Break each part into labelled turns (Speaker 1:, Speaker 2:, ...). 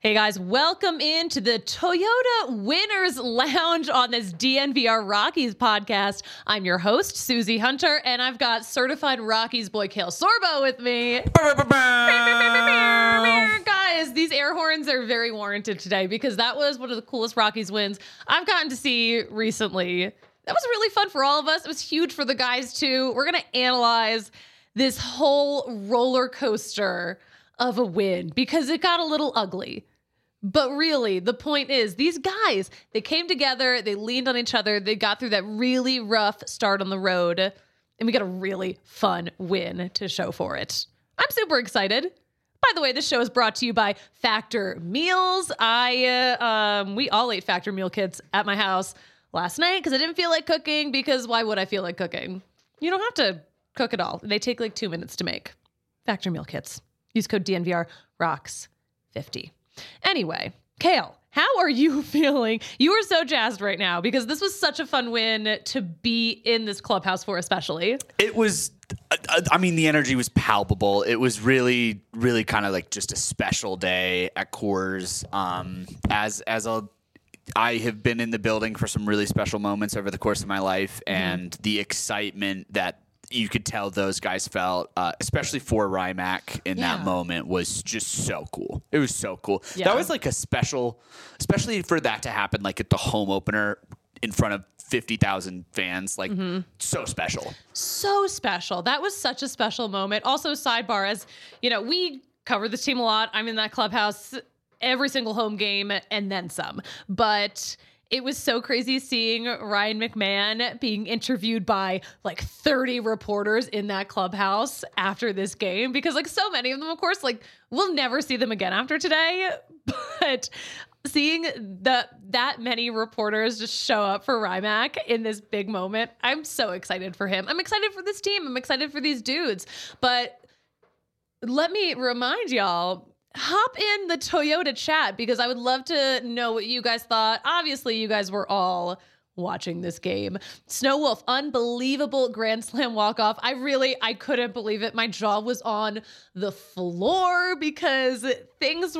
Speaker 1: Hey guys, welcome into the Toyota Winners Lounge on this DNVR Rockies podcast. I'm your host, Susie Hunter, and I've got certified Rockies boy Cale Sorbo with me. Guys, these air horns are very warranted today because that was one of the coolest Rockies wins I've gotten to see recently. That was really fun for all of us. It was huge for the guys too. We're going to analyze this whole roller coaster of a win because it got a little ugly. But really, the point is, these guys, they came together, they leaned on each other, they got through that really rough start on the road, and we got a really fun win to show for it. I'm super excited. By the way, this show is brought to you by Factor Meals. We all ate Factor meal kits at my house last night because I didn't feel like cooking, because why would I feel like cooking? You don't have to cook at all. They take like 2 minutes to make. Factor meal kits. Use code DNVR ROCKS50. Anyway, Cale, how are you feeling? You are so jazzed right now because this was such a fun win to be in this clubhouse for, especially.
Speaker 2: It was, the energy was palpable. It was really, really kind of like just a special day at Coors. I have been in the building for some really special moments over the course of my life, and the excitement that you could tell those guys felt, especially for Rymac in that moment, was just so cool. It was so cool. Yeah. That was like a special, especially for that to happen like at the home opener in front of 50,000 fans, like so special. So special. That was such a special moment. Also, sidebar, as you know, we cover this team a lot. I'm in that clubhouse every single home game and then some. But it was so crazy seeing Ryan McMahon being interviewed by like 30 reporters in that clubhouse after this game, because like so many of them, of course, like we'll never see them again after today. But seeing that many reporters just show up for Rymac in this big moment, I'm so excited for him. I'm excited for this team. I'm excited for these dudes. But let me remind y'all, hop in the Toyota chat because I would love to know what you guys thought. Obviously, you guys were all watching this game. Snow Wolf, unbelievable Grand Slam walk-off. I couldn't believe it. My jaw was on the floor because things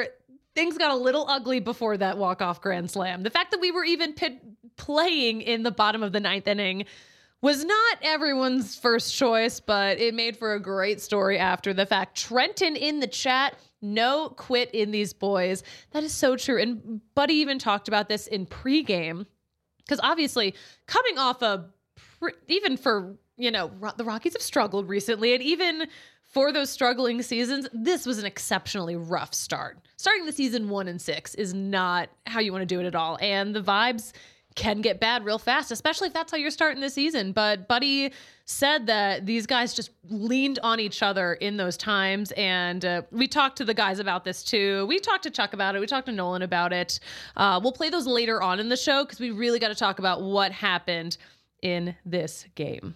Speaker 2: got a little ugly before that walk-off Grand Slam. The fact that we were even playing in the bottom of the ninth inning was not everyone's first choice, but it made for a great story after the fact. Trenton in the chat, no quit in these boys. That is so true. And Buddy even talked about this in pregame, because obviously coming off even for, the Rockies have struggled recently, and even for those struggling seasons, this was an exceptionally rough start. Starting the season 1-6 is not how you want to do it at all. And the vibes can get bad real fast, especially if that's how you're starting the season. But Buddy said that these guys just leaned on each other in those times. And we talked to the guys about this too. We talked to Chuck about it. We talked to Nolan about it. We'll play those later on in the show because we really got to talk about what happened in this game.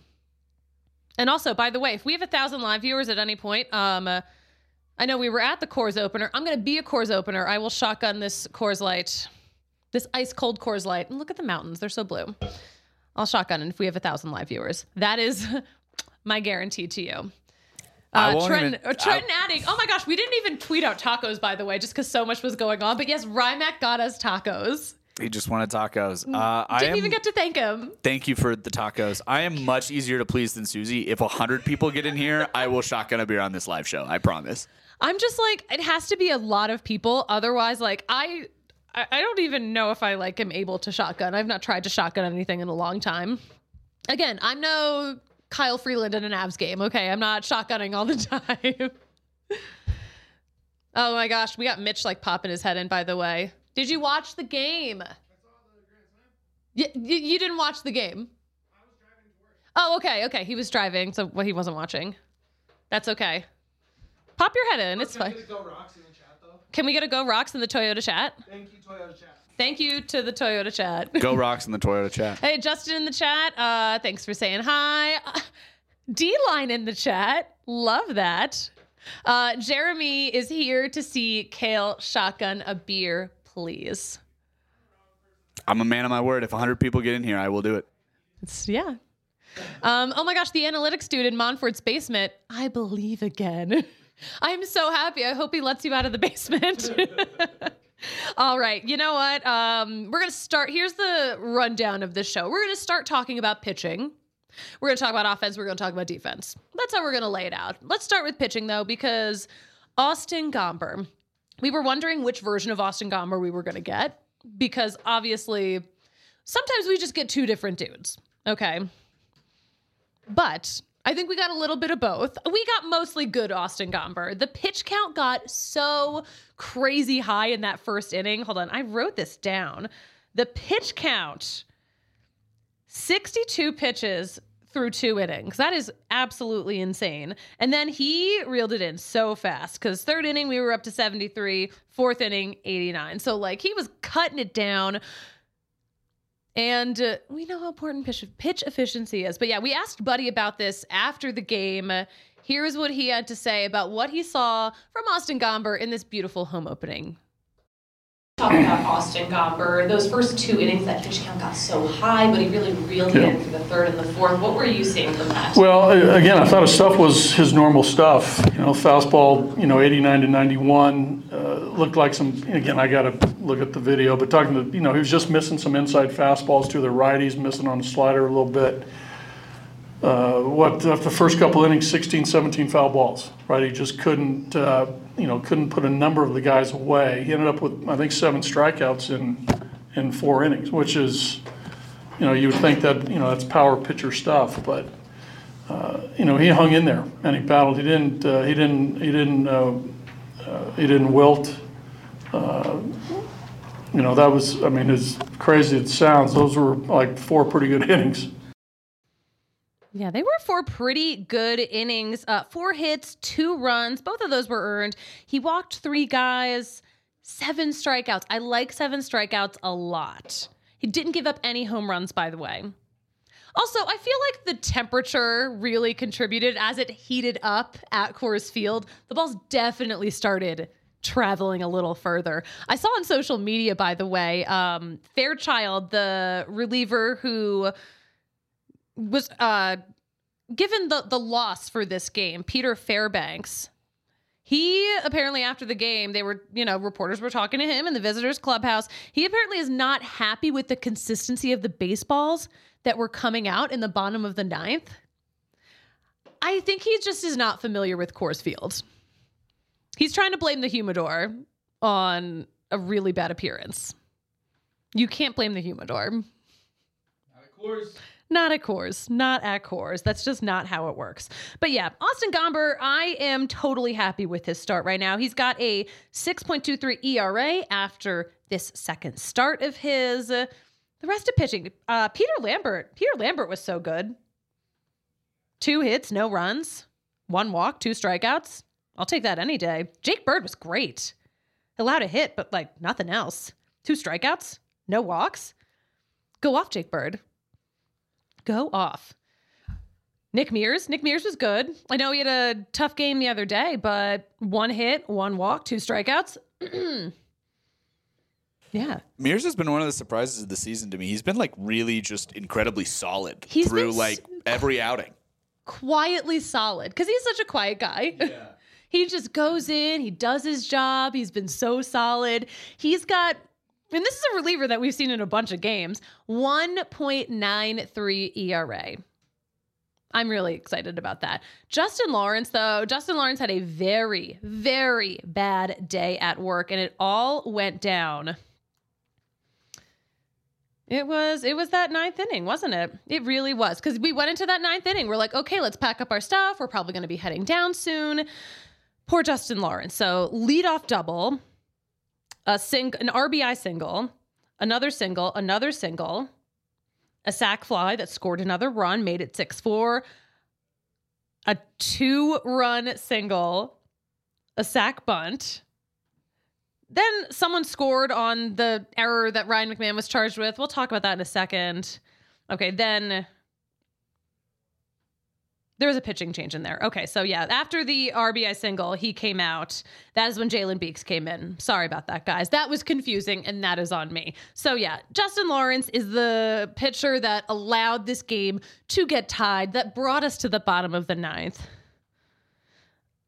Speaker 2: And also, by the way, if we have 1,000 live viewers at any point, I know we were at the Coors opener. I'm going to be a Coors opener. I will shotgun this Coors Light. This ice cold Coors Light. And look at the mountains. They're so blue. I'll shotgun it if we have 1,000 live viewers. That is my guarantee to you. Trenton adding, oh my gosh, we didn't even tweet out tacos, by the way, just because so much was going on. But yes, Rymac got us tacos. He just wanted tacos.
Speaker 1: Didn't even get to thank him.
Speaker 2: Thank you for the tacos. I am much easier to please than Susie. If 100 people get in here, I will shotgun a beer on this live show. I promise. I'm just like, it has to be a lot of people. Otherwise, like, I don't even know if I am able to shotgun. I've not tried to shotgun anything in a long time. Again, I'm no Kyle Freeland in an Avs game. Okay, I'm not shotgunning all the time. Oh my gosh, we got Mitch popping his head in, by the way. Did you watch the game? I saw the Grand Slam. You didn't watch the game? I was driving to work. Oh, okay. He was driving, so he wasn't watching. That's okay. Pop your head in. It's fine. Can we get a Go Rocks in the chat, though? Can we get a Go Rocks in the Toyota chat? Thank you, Toyota chat. Thank you to the Toyota chat. Go Rocks in the Toyota chat.
Speaker 1: Hey, Justin in the chat. Thanks for saying hi. D-Line in the chat. Love that. Jeremy is here to see Cale shotgun a beer, please.
Speaker 2: I'm a man of my word. If 100 people get in here, I will do it.
Speaker 1: Yeah. Oh my gosh, the analytics dude in Monfort's basement. I believe again. I'm so happy. I hope he lets you out of the basement. All right. You know what? We're going to start. Here's the rundown of this show. We're going to start talking about pitching. We're going to talk about offense. We're going to talk about defense. That's how we're going to lay it out. Let's start with pitching, though, because Austin Gomber. We were wondering which version of Austin Gomber we were going to get, because obviously sometimes we just get two different dudes. Okay. But I think we got a little bit of both. We got mostly good Austin Gomber. The pitch count got so crazy high in that first inning. Hold on, I wrote this down. The pitch count, 62 pitches through 2 innings. That is absolutely insane. And then he reeled it in so fast, because third inning we were up to 73, fourth inning 89. So like he was cutting it down. And we know how important pitch efficiency is. But yeah, we asked Buddy about this after the game. Here's what he had to say about what he saw from Austin Gomber in this beautiful home opening. Talking about Austin Gomber, those first 2 innings, that pitch count got so high, but he really reeled it in for the third and the fourth. What were you seeing from that?
Speaker 3: Well, again, I thought his stuff was his normal stuff. Fastball, 89 to 91. Looked like some, again, I got to look at the video, but talking to, he was just missing some inside fastballs to the righties, missing on the slider a little bit. The first couple innings, 16, 17 foul balls, right? He just couldn't put a number of the guys away. He ended up with, I think, 7 strikeouts in 4 innings, which is, you would think that, that's power pitcher stuff, but, he hung in there and he battled. He didn't wilt. That was, as crazy as it sounds, those were like 4 pretty good innings.
Speaker 1: Yeah, they were 4 pretty good innings. 4 hits, 2 runs. Both of those were earned. He walked 3 guys, 7 strikeouts. I like 7 strikeouts a lot. He didn't give up any home runs, by the way. Also, I feel like the temperature really contributed as it heated up at Coors Field. The balls definitely started traveling a little further. I saw on social media, by the way, Fairchild, the reliever who was given the loss for this game, Peter Fairbanks. He apparently, after the game, they were, reporters were talking to him in the visitors clubhouse. He apparently is not happy with the consistency of the baseballs that were coming out in the bottom of the 9th. I think he just is not familiar with Coors Field. He's trying to blame the humidor on a really bad appearance. You can't blame the humidor.
Speaker 4: Not at Coors.
Speaker 1: Not at Coors. Not at Coors. That's just not how it works. But yeah, Austin Gomber, I am totally happy with his start right now. He's got a 6.23 ERA after this second start of his. The rest of pitching, Peter Lambert was so good. 2 hits, no runs, 1 walk, 2 strikeouts. I'll take that any day. Jake Bird was great. Allowed a hit, but like nothing else. 2 strikeouts, no walks. Go off, Jake Bird. Go off. Nick Mears was good. I know he had a tough game the other day, but 1 hit, 1 walk, 2 strikeouts. Yeah.
Speaker 2: Mears has been one of the surprises of the season to me. He's been like really just incredibly solid
Speaker 1: He's
Speaker 2: through
Speaker 1: been
Speaker 2: like every outing.
Speaker 1: Quietly solid, because he's such a quiet guy.
Speaker 4: Yeah.
Speaker 1: He just goes in, he does his job. He's been so solid. He's got, and this is a reliever that we've seen in a bunch of games, 1.93 ERA. I'm really excited about that. Justin Lawrence had a very, very bad day at work, and it all went down. It was that 9th inning, wasn't it? It really was, because we went into that 9th inning. We're like, okay, let's pack up our stuff. We're probably going to be heading down soon. Poor Justin Lawrence. So leadoff double, an RBI single, another single, a sac fly that scored another run, made it 6-4, a 2-run single, a sac bunt. Then someone scored on the error that Ryan McMahon was charged with. We'll talk about that in a second. Okay, then there was a pitching change in there. Okay, so yeah, after the RBI single, he came out. That is when Jalen Beeks came in. Sorry about that, guys. That was confusing, and that is on me. So yeah, Justin Lawrence is the pitcher that allowed this game to get tied, that brought us to the bottom of the 9th.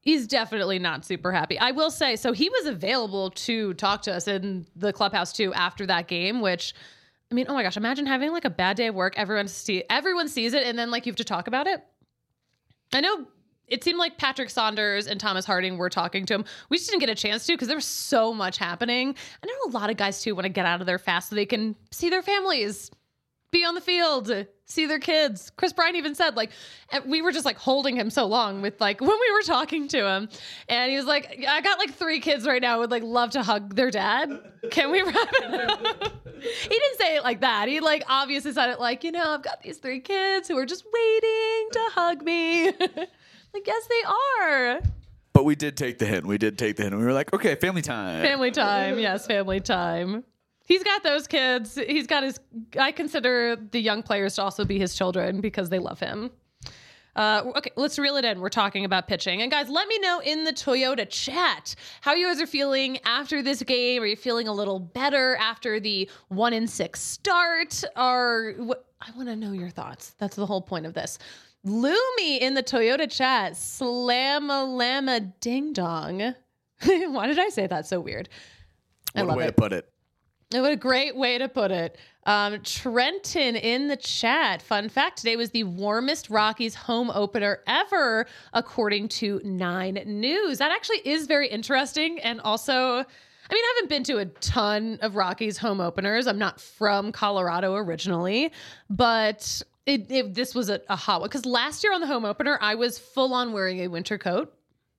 Speaker 1: He's definitely not super happy. I will say, so he was available to talk to us in the clubhouse too after that game, which, I mean, oh my gosh, imagine having like a bad day of work. Everyone sees it, and then like you have to talk about it. I know it seemed like Patrick Saunders and Thomas Harding were talking to him. We just didn't get a chance to because there was so much happening. I know a lot of guys too want to get out of there fast so they can see their families, be on the field, see their kids. Chris Bryant even said, like, we were just like holding him so long with like when we were talking to him, and he was like, I got like 3 kids right now, would like love to hug their dad. Can we wrap it up? He didn't say it like that. He like obviously said it like, I've got these 3 kids who are just waiting to hug me. Like, yes, they are.
Speaker 2: But we did take the hint. We were like, okay, family time.
Speaker 1: Family time. Yes, family time. He's got those kids. He's got I consider the young players to also be his children because they love him. Okay, let's reel it in. We're talking about pitching. And guys, let me know in the Toyota chat how you guys are feeling after this game. Are you feeling a little better after the 1-6 start? I want to know your thoughts. That's the whole point of this. Lumi in the Toyota chat. Slam-a-llama ding-dong. Why did I say that so weird? I love it.
Speaker 2: What a way to put it.
Speaker 1: What a great way to put it. Trenton in the chat. Fun fact, today was the warmest Rockies home opener ever, according to 9 News. That actually is very interesting. And also, I haven't been to a ton of Rockies home openers. I'm not from Colorado originally, but this was a hot one. Because last year on the home opener, I was full on wearing a winter coat.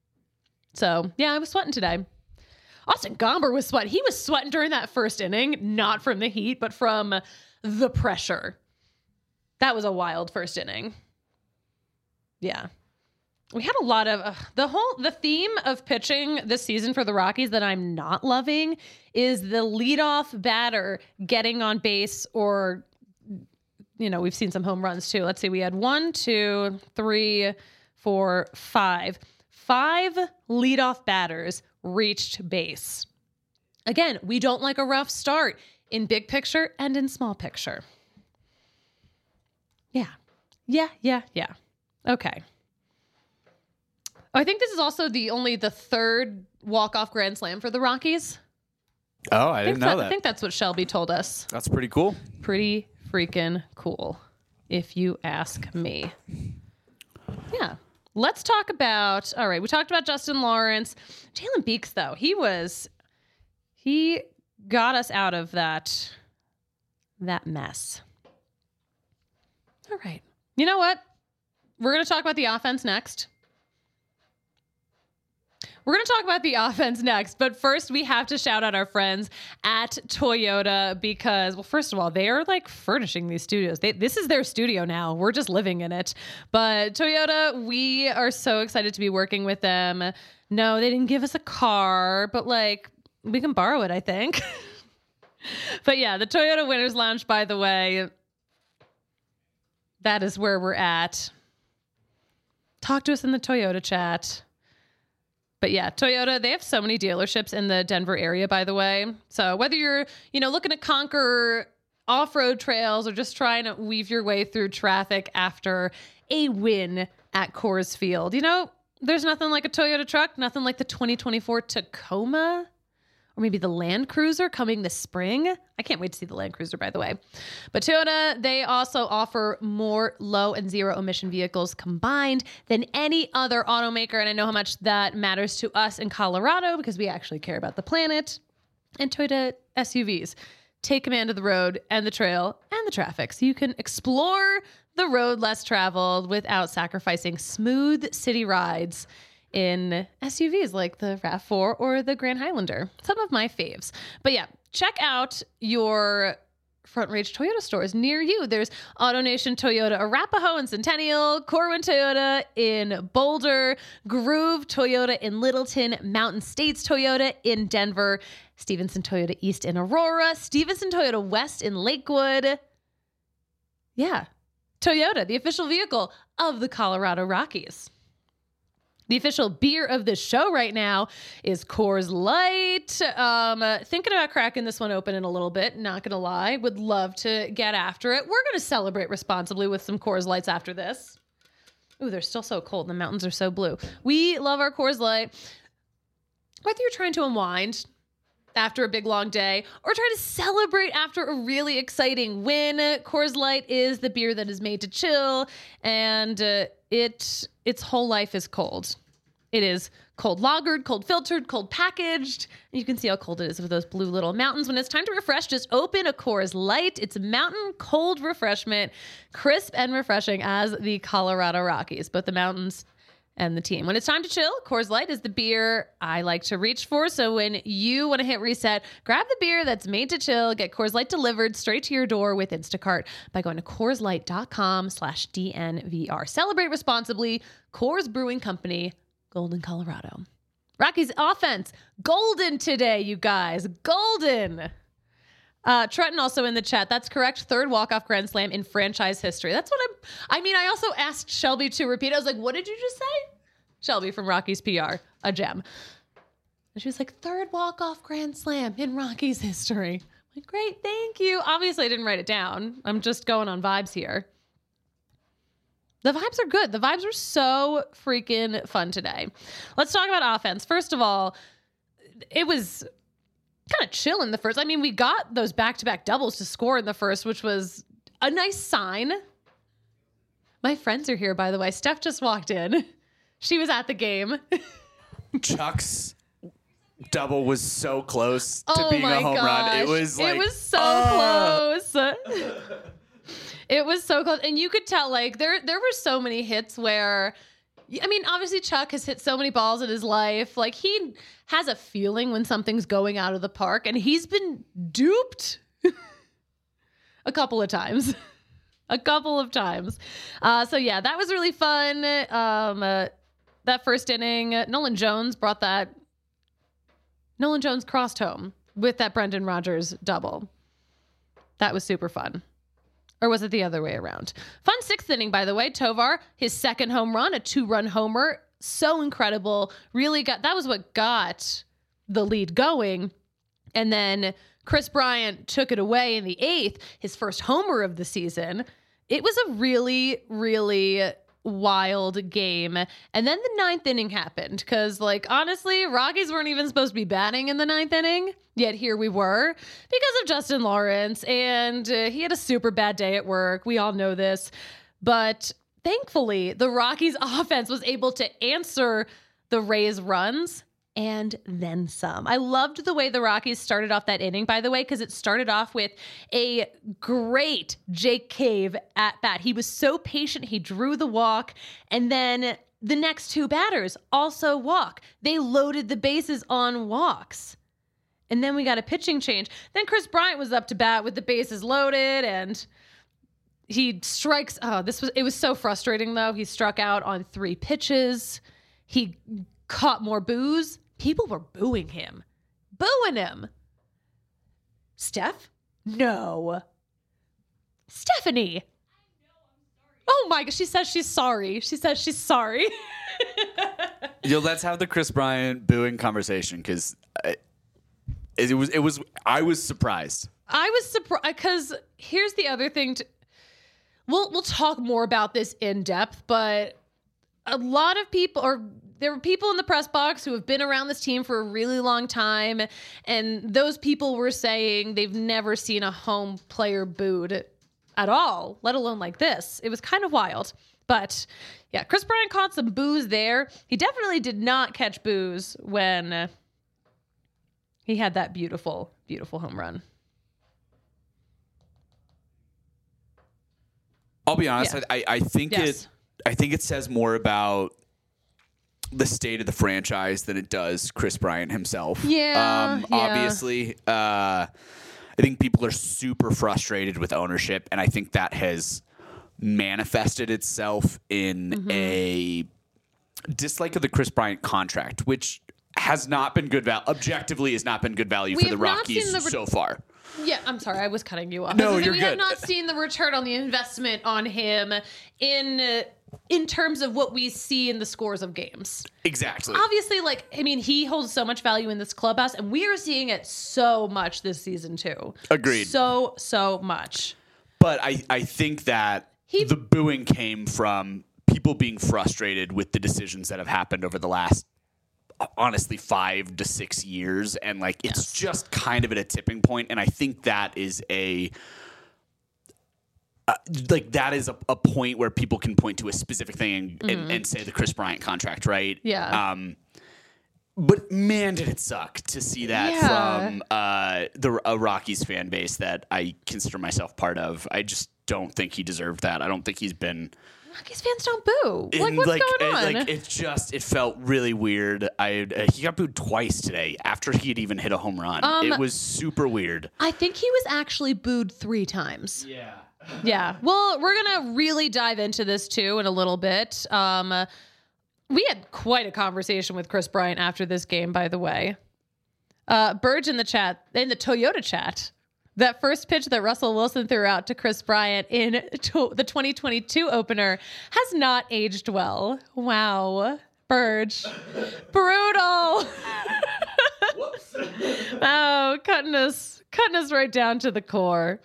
Speaker 1: So, yeah, I was sweating today. Austin Gomber was sweating. He was sweating during that first inning, not from the heat, but from the pressure. That was a wild first inning. Yeah. We had a lot of the theme of pitching this season for the Rockies that I'm not loving is the leadoff batter getting on base, or, we've seen some home runs too. Let's see. We had 1, 2, 3, 4, 5. 5 leadoff batters reached base. Again, we don't like a rough start in big picture and in small picture. Yeah. Okay. I think this is also the third walk-off grand slam for the Rockies.
Speaker 2: Oh, I didn't know that.
Speaker 1: I think that's what Shelby told us.
Speaker 2: That's pretty cool.
Speaker 1: Pretty freaking cool, if you ask me. Yeah. Let's talk about, all right, we talked about Justin Lawrence. Jalen Beeks, though, he got us out of that mess. All right. You know what? We're going to talk about the offense next. But first we have to shout out our friends at Toyota because, well, first of all, they are like furnishing these studios. This is their studio now. We're just living in it. But Toyota, we are so excited to be working with them. No, they didn't give us a car, but like we can borrow it, I think. But yeah, the Toyota Winners Lounge, by the way, that is where we're at. Talk to us in the Toyota chat. But yeah, Toyota, they have so many dealerships in the Denver area, by the way. So whether you're, looking to conquer off-road trails or just trying to weave your way through traffic after a win at Coors Field, there's nothing like a Toyota truck, nothing like the 2024 Tacoma, or maybe the Land Cruiser coming this spring. I can't wait to see the Land Cruiser, by the way. But Toyota, they also offer more low and zero emission vehicles combined than any other automaker. And I know how much that matters to us in Colorado because we actually care about the planet. And Toyota SUVs take command of the road and the trail and the traffic, so you can explore the road less traveled without sacrificing smooth city rides in SUVs like the RAV4 or the Grand Highlander. Some of my faves. But yeah, check out your Front Range Toyota stores near you. There's AutoNation Toyota Arapahoe and Centennial, Corwin Toyota in Boulder, Groove Toyota in Littleton, Mountain States Toyota in Denver, Stevenson Toyota East in Aurora, Stevenson Toyota West in Lakewood. Yeah, Toyota, the official vehicle of the Colorado Rockies. The official beer of the show right now is Coors Light. Thinking about cracking this one open in a little bit, not going to lie. Would love to get after it. We're going to celebrate responsibly with some Coors Lights after this. Ooh, they're still so cold. The mountains are so blue. We love our Coors Light. Whether you're trying to unwind after a big long day or try to celebrate after a really exciting win, Coors Light is the beer that is made to chill, and its whole life is cold. It is cold lagered, cold filtered, cold packaged. And you can see how cold it is with those blue little mountains. When it's time to refresh, just open a Coors Light. It's mountain cold refreshment, crisp and refreshing as the Colorado Rockies, both the mountains and the team. When it's time to chill, Coors Light is the beer I like to reach for. So when you want to hit reset, grab the beer that's made to chill. Get Coors Light delivered straight to your door with Instacart by going to CoorsLight.com/DNVR. Celebrate responsibly. Coors Brewing Company, Golden, Colorado. Rockies offense, golden today, you guys. Golden. Trenton also in the chat. That's correct. Third walk-off grand slam in franchise history. That's what I also asked Shelby to repeat. I was like, what did you just say? Shelby from Rockies PR, a gem. And she was like, third walk-off grand slam in Rockies history. I'm like, great, thank you. Obviously, I didn't write it down. I'm just going on vibes here. The vibes are good. The vibes are so freaking fun today. Let's talk about offense. First of all, it was kind of chill in the first. I mean, we got those back-to-back doubles to score in the first, which was a nice sign. My friends are here, by the way. Steph just walked in. She was at the game.
Speaker 2: Chuck's double was so close to being a home run. It was like,
Speaker 1: it was so close. It was so close. And you could tell, like, there were so many hits where, I mean, obviously Chuck has hit so many balls in his life. Like, he has a feeling when something's going out of the park, and he's been duped a couple of times. So, yeah, that was really fun. That first inning, Nolan Jones crossed home with that Brendan Rodgers double. That was super fun. Or was it the other way around? Fun sixth inning, by the way. Tovar, his second home run, a 2-run homer. So incredible. That was what got the lead going. And then Chris Bryant took it away in the 8th, his first homer of the season. It was a really, really wild game. And then the 9th inning happened because, like, honestly, Rockies weren't even supposed to be batting in the 9th inning, yet here we were because of Justin Lawrence, and he had a super bad day at work. We all know this, but thankfully the Rockies offense was able to answer the Rays runs and then some. I loved the way the Rockies started off that inning, by the way, because it started off with a great Jake Cave at bat. He was so patient. He drew the walk, and then the next 2 batters also walk. They loaded the bases on walks. And then we got a pitching change. Then Chris Bryant was up to bat with the bases loaded, and he strikes. It was so frustrating, though. He struck out on 3 pitches. He caught more boos. People were booing him. Steph? No. Stephanie. Oh my gosh, she says she's sorry.
Speaker 2: Let's have the Chris Bryant booing conversation, because I was surprised.
Speaker 1: I was surprised because here's the other thing. We'll talk more about this in depth, but a lot of people, there were people in the press box who have been around this team for a really long time, and those people were saying they've never seen a home player booed at all, let alone like this. It was kind of wild. But yeah, Chris Bryant caught some boos there. He definitely did not catch boos when he had that beautiful, beautiful home run.
Speaker 2: I'll be honest. Yeah. I think
Speaker 1: yes.
Speaker 2: I think it says more about the state of the franchise than it does Chris Bryant himself.
Speaker 1: Yeah.
Speaker 2: Obviously, I think people are super frustrated with ownership, and I think that has manifested itself in a dislike of the Chris Bryant contract, which has not been good value. Objectively, has not been good value for the Rockies so far.
Speaker 1: Yeah, I'm sorry, I was cutting you off.
Speaker 2: No, you're good.
Speaker 1: We have not seen the return on the investment on him in terms of what we see in the scores of games.
Speaker 2: Exactly.
Speaker 1: Obviously, he holds so much value in this clubhouse, and we are seeing it so much this season too.
Speaker 2: Agreed.
Speaker 1: So much.
Speaker 2: But I think that the booing came from people being frustrated with the decisions that have happened over the last, honestly, 5 to 6 years. And like, it's just kind of at a tipping point. And I think that is that is a point where people can point to a specific thing and say the Chris Bryant contract, right?
Speaker 1: Yeah.
Speaker 2: But man, did it suck to see that from a Rockies fan base that I consider myself part of. I just don't think he deserved that. I don't think he's been.
Speaker 1: Rockies fans don't boo. Like, what's going on?
Speaker 2: It felt really weird. He got booed twice today after he had even hit a home run. It was super weird.
Speaker 1: I think he was actually booed 3 times.
Speaker 4: Yeah.
Speaker 1: Yeah. Well, we're going to really dive into this too in a little bit. We had quite a conversation with Chris Bryant after this game, by the way. Burge in the Toyota chat, that first pitch that Russell Wilson threw out to Chris Bryant in the 2022 opener has not aged well. Wow. Burge. Brutal.
Speaker 4: Whoops.
Speaker 1: Oh, cutting us right down to the core.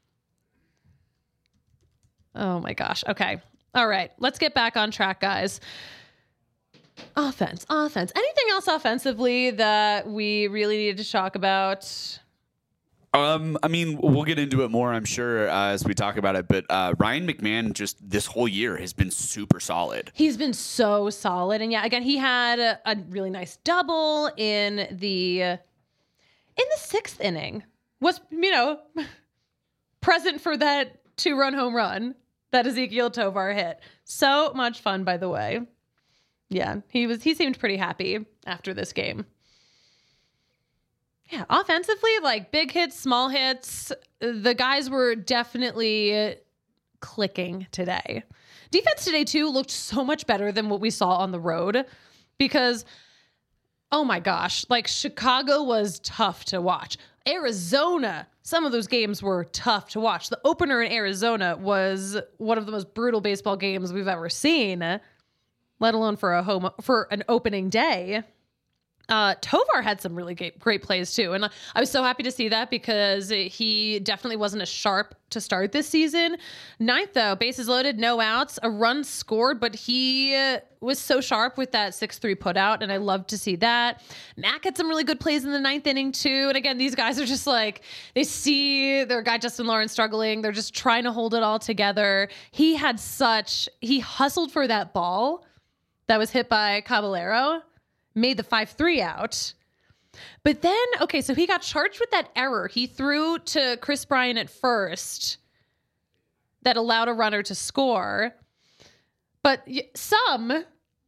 Speaker 1: Oh my gosh. Okay. All right. Let's get back on track, guys. Offense. Anything else offensively that we really needed to talk about?
Speaker 2: I mean, we'll get into it more, I'm sure, as we talk about it. But Ryan McMahon, just this whole year, has been super solid.
Speaker 1: He's been so solid, and yeah, again, he had a really nice double in the 6th inning. Was present for that 2-run home run that Ezequiel Tovar hit. So much fun, by the way. Yeah, he seemed pretty happy after this game. Yeah, offensively, like big hits, small hits, the guys were definitely clicking today. Defense today, too, looked so much better than what we saw on the road because, oh my gosh, like Chicago was tough to watch. Arizona, some of those games were tough to watch. The opener in Arizona was one of the most brutal baseball games we've ever seen, let alone for an opening day. Tovar had some really great plays too. And I was so happy to see that because he definitely wasn't as sharp to start this season. 9th though, bases loaded, no outs, a run scored, but he was so sharp with that 6-3 put out. And I love to see that. Mac had some really good plays in the 9th inning too. And again, these guys are just like, they see their guy, Justin Lawrence, struggling. They're just trying to hold it all together. He hustled for that ball that was hit by Caballero. Made the 5-3 out. But then, okay, so he got charged with that error. He threw to Chris Bryant at first that allowed a runner to score. But some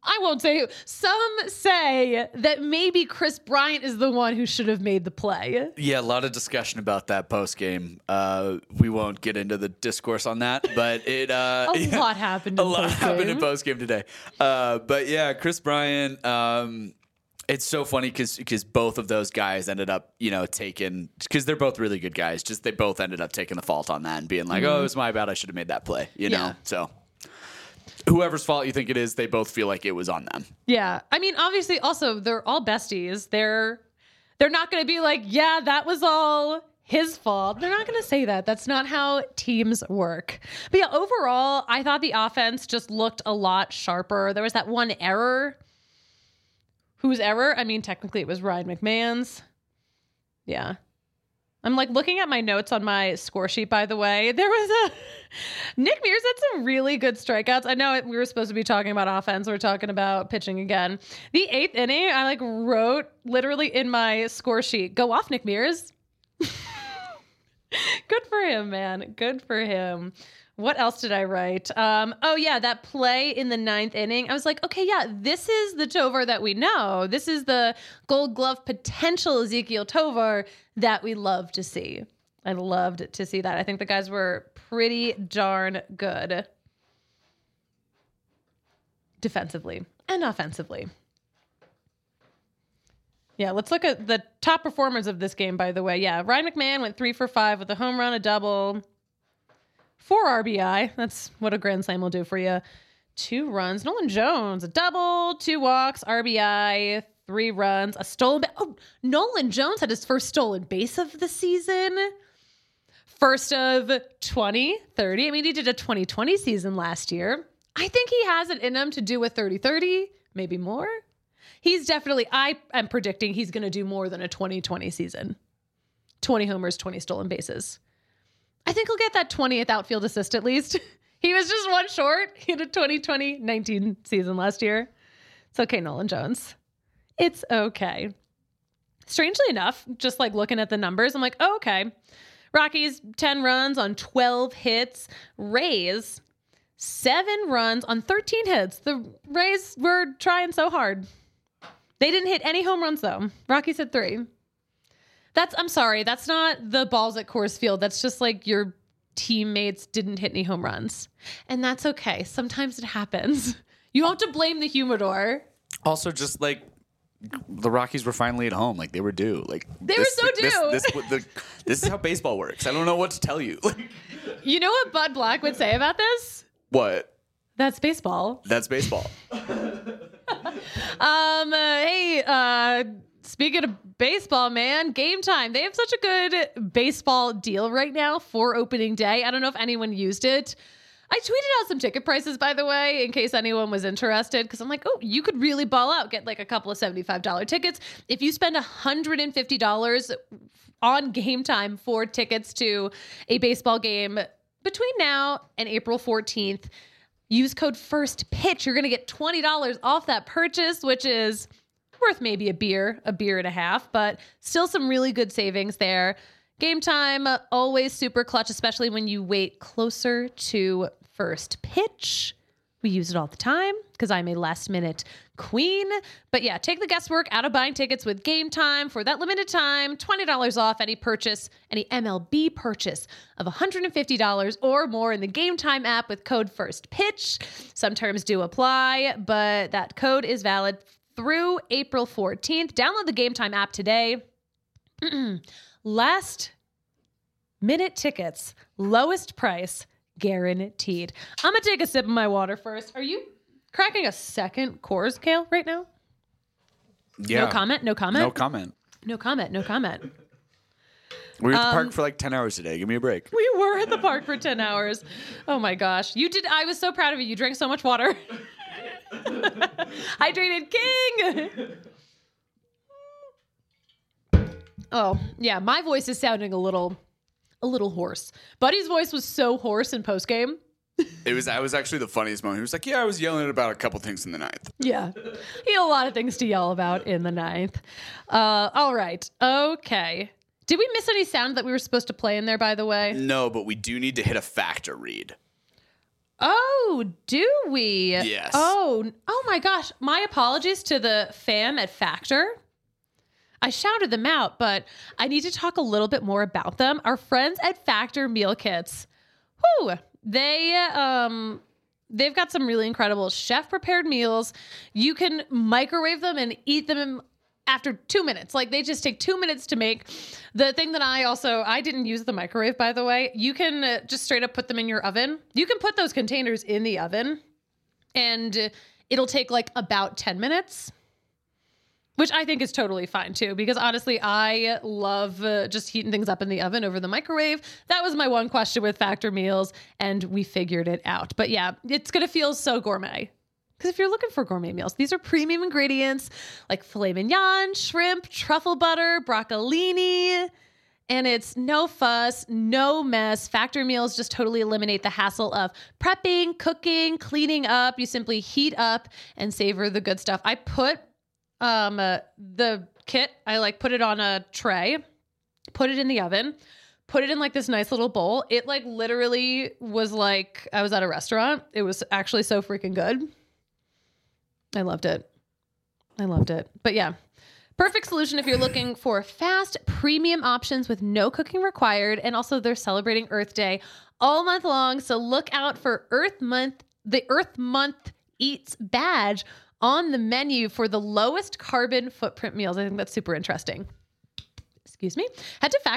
Speaker 1: say that maybe Chris Bryant is the one who should have made the play.
Speaker 2: Yeah, a lot of discussion about that post game. We won't get into the discourse on that, but a
Speaker 1: lot happened.
Speaker 2: In post game today. But yeah, Chris Bryant. It's so funny because both of those guys ended up taking, because they're both really good guys. Just they both ended up taking the fault on that and being like, oh, it was my bad. I should have made that play. You know, so. Whoever's fault you think it is, they both feel like it was on them.
Speaker 1: Yeah. I mean, obviously, also, they're all besties. They're not going to be like, yeah, that was all his fault. They're not going to say that. That's not how teams work. But yeah, overall, I thought the offense just looked a lot sharper. There was that one error. Whose error? I mean, technically, it was Ryan McMahon's. Yeah. I'm like looking at my notes on my score sheet, by the way. There was Nick Mears had some really good strikeouts. I know we were supposed to be talking about offense. We're talking about pitching again. The 8th inning, I wrote literally in my score sheet, go off, Nick Mears. Good for him, man. Good for him. What else did I write? That play in the 9th inning. I was like, okay, yeah, this is the Tovar that we know. This is the Gold Glove potential Ezequiel Tovar that we love to see. I loved to see that. I think the guys were pretty darn good defensively and offensively. Yeah, let's look at the top performers of this game, by the way. Yeah, Ryan McMahon went 3 for 5 with a home run, a double, 4 RBI. That's what a grand slam will do for you. 2 runs. Nolan Jones, a double, 2 walks, RBI, 3 runs, a stolen base. Oh, Nolan Jones had his first stolen base of the season. First of 2030. I mean, he did a 2020 season last year. I think he has it in him to do a 30-30, maybe more. He's definitely, I am predicting he's going to do more than a 2020 season. 20 homers, 20 stolen bases. I think he'll get that 20th outfield assist at least. He was just one short in a 2020-19 season last year. It's okay, Nolan Jones. It's okay. Strangely enough, just like looking at the numbers, I'm like, oh, okay. Rockies, 10 runs on 12 hits. Rays, 7 runs on 13 hits. The Rays were trying so hard. They didn't hit any home runs, though. Rockies hit 3. I'm sorry, that's not the balls at Coors Field. That's just like your teammates didn't hit any home runs. And that's okay. Sometimes it happens. You don't have to blame the humidor.
Speaker 2: Also, just like the Rockies were finally at home, like they were due. Like
Speaker 1: they were so due.
Speaker 2: This is how baseball works. I don't know what to tell you.
Speaker 1: You know what Bud Black would say about this?
Speaker 2: What?
Speaker 1: That's baseball.
Speaker 2: That's baseball.
Speaker 1: Speaking of baseball, man, Game Time. They have such a good baseball deal right now for opening day. I don't know if anyone used it. I tweeted out some ticket prices, by the way, in case anyone was interested, because I'm like, oh, you could really ball out, get like a couple of $75 tickets. If you spend $150 on Game Time for tickets to a baseball game between now and April 14th, use code FIRSTPITCH. You're going to get $20 off that purchase, which is worth maybe a beer and a half, but still some really good savings there. Game Time, always super clutch, especially when you wait closer to first pitch. We use it all the time because I'm a last minute queen. But yeah, take the guesswork out of buying tickets with Game Time for that limited time. $20 off any purchase, any MLB purchase of $150 or more in the Game Time app with code FIRSTPITCH. Some terms do apply, but that code is valid through April 14th. Download the Game Time app today. Last minute tickets, lowest price, guaranteed. I'm going to take a sip of my water first. Are you cracking a second Coors, Kale, right now?
Speaker 2: Yeah.
Speaker 1: No comment?
Speaker 2: No comment. We were at the park for like 10 hours today. Give me a break.
Speaker 1: We were at the park for 10 hours. Oh my gosh. You did. I was so proud of you. You drank so much water. Hydrated king. Oh, yeah. My voice is sounding a little hoarse. Buddy's voice was so hoarse in postgame.
Speaker 2: That was actually the funniest moment. He was like, yeah, I was yelling about a couple things in the ninth.
Speaker 1: Yeah. He had a lot of things to yell about in the ninth. All right. Okay. Did we miss any sound that we were supposed to play in there, by the way?
Speaker 2: No, but we do need to hit a factor read.
Speaker 1: Oh, do we?
Speaker 2: Yes.
Speaker 1: Oh my gosh. My apologies to the fam at Factor. I shouted them out, but I need to talk a little bit more about them. Our friends at Factor Meal Kits. Whew. They've got some really incredible chef-prepared meals. You can microwave them and eat them after 2 minutes. Like, they just take 2 minutes to make. The thing that I didn't use the microwave, by the way. You can just straight up put them in your oven. You can put those containers in the oven and it'll take like about 10 minutes, which I think is totally fine too, because honestly, I love just heating things up in the oven over the microwave. That was my one question with Factor meals, and we figured it out. But yeah, it's going to feel so gourmet. Because if you're looking for gourmet meals, these are premium ingredients like filet mignon, shrimp, truffle butter, broccolini, and it's no fuss, no mess. Factor meals just totally eliminate the hassle of prepping, cooking, cleaning up. You simply heat up and savor the good stuff. I put the kit, I put it on a tray, put it in the oven, put it in like this nice little bowl. It like literally was like I was at a restaurant. It was actually so freaking good. I loved it. But yeah, perfect solution if you're looking for fast, premium options with no cooking required. And also they're celebrating Earth Day all month long. So look out for the Earth Month Eats badge on the menu for the lowest carbon footprint meals. I think that's super interesting. Excuse me. Head to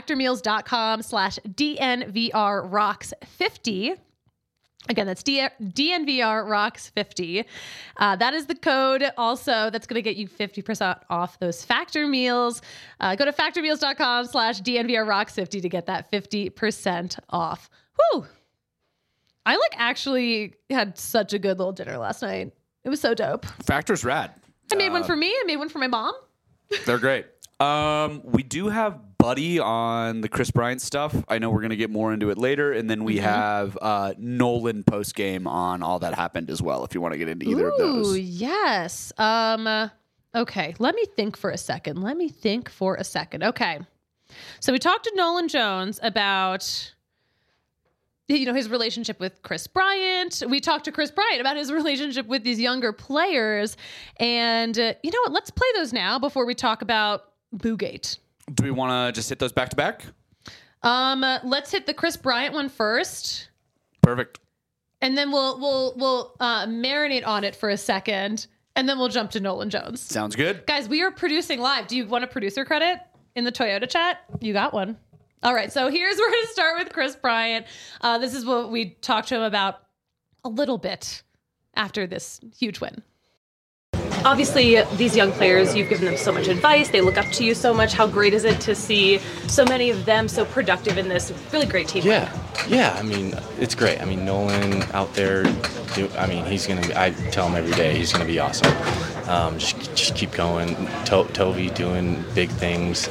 Speaker 1: factormeals.com/DNVRRocks50. Again, that's DNVRRocks50. That is the code also that's going to get you 50% off those Factor meals. Go to factormeals.com/DNVRRocks50 to get that 50% off. Whew. I like actually had such a good little dinner last night. It was so dope.
Speaker 2: Factor's rad.
Speaker 1: I made one for me. I made one for my mom.
Speaker 2: They're great. We do have Buddy on the Chris Bryant stuff. I know we're going to get more into it later. And then we have Nolan post-game on all that happened as well, if you want to get into either of those.
Speaker 1: Yes. Okay, let me think for a second. Okay. So we talked to Nolan Jones about his relationship with Chris Bryant. We talked to Chris Bryant about his relationship with these younger players. And you know what? Let's play those now before we talk about Boogate.
Speaker 2: Do we want to just hit those back to back?
Speaker 1: Let's hit the Chris Bryant one first.
Speaker 2: Perfect.
Speaker 1: And then we'll marinate on it for a second. And then we'll jump to Nolan Jones.
Speaker 2: Sounds good.
Speaker 1: Guys, we are producing live. Do you want a producer credit in the Toyota chat? You got one. All right, so we're going to start with Chris Bryant. This is what we talked to him about a little bit after this huge win. Obviously, these young players, you've given them so much advice. They look up to you so much. How great is it to see so many of them so productive in this really great team?
Speaker 5: Yeah. I mean, it's great. I mean, Nolan out there, he's going to be, I tell him every day, he's going to be awesome. Just keep going. Tovey doing big things.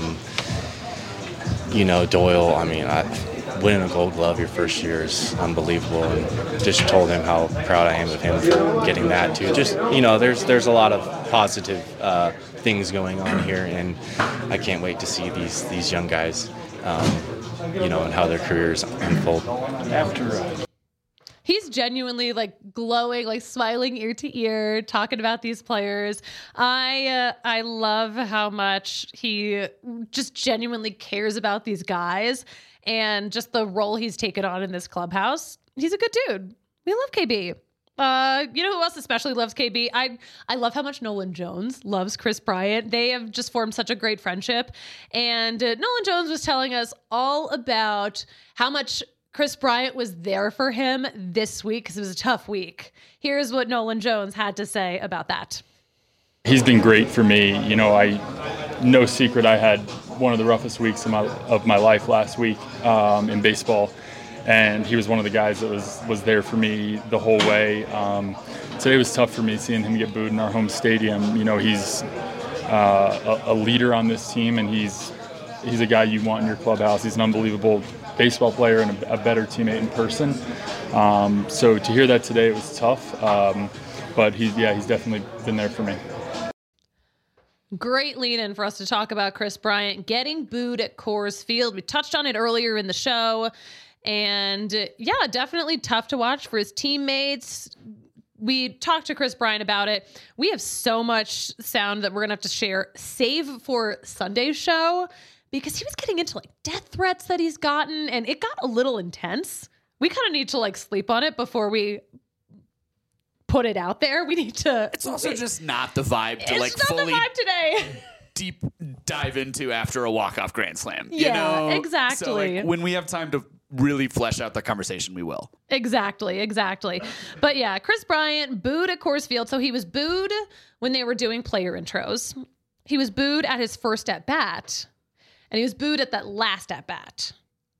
Speaker 5: Doyle, winning a Gold Glove your first year is unbelievable, and just told him how proud I am of him for getting that too. Just, there's a lot of positive things going on here, and I can't wait to see these young guys, and how their careers unfold.
Speaker 1: He's genuinely glowing, smiling ear to ear, talking about these players. I love how much he just genuinely cares about these guys and just the role he's taken on in this clubhouse. He's a good dude. We love KB. You know who else especially loves KB? I love how much Nolan Jones loves Chris Bryant. They have just formed such a great friendship. And Nolan Jones was telling us all about how much Chris Bryant was there for him this week because it was a tough week. Here's what Nolan Jones had to say about that.
Speaker 6: He's been great for me. No secret I had one of the roughest weeks of my life last week in baseball, and he was one of the guys that was there for me the whole way. Today was tough for me seeing him get booed in our home stadium. He's a leader on this team, and he's a guy you want in your clubhouse. He's an unbelievable baseball player and a better teammate in person. So to hear that today, it was tough. But he's definitely been there for me.
Speaker 1: Great lead in for us to talk about Chris Bryant getting booed at Coors Field. We touched on it earlier in the show. And definitely tough to watch for his teammates. We talked to Chris Bryant about it. We have so much sound that we're going to have to share, save for Sunday's show, because he was getting into death threats that he's gotten, and it got a little intense. We kind of need to sleep on it before we put it out there. We need to.
Speaker 2: It's also just not the vibe to
Speaker 1: it's not
Speaker 2: fully
Speaker 1: the vibe today.
Speaker 2: deep dive into after a walk-off grand slam.
Speaker 1: Yeah, exactly.
Speaker 2: So when we have time to really flesh out the conversation, we will.
Speaker 1: Exactly. But yeah, Chris Bryant booed at Coors Field. So he was booed when they were doing player intros. He was booed at his first at-bat. And he was booed at that last at-bat.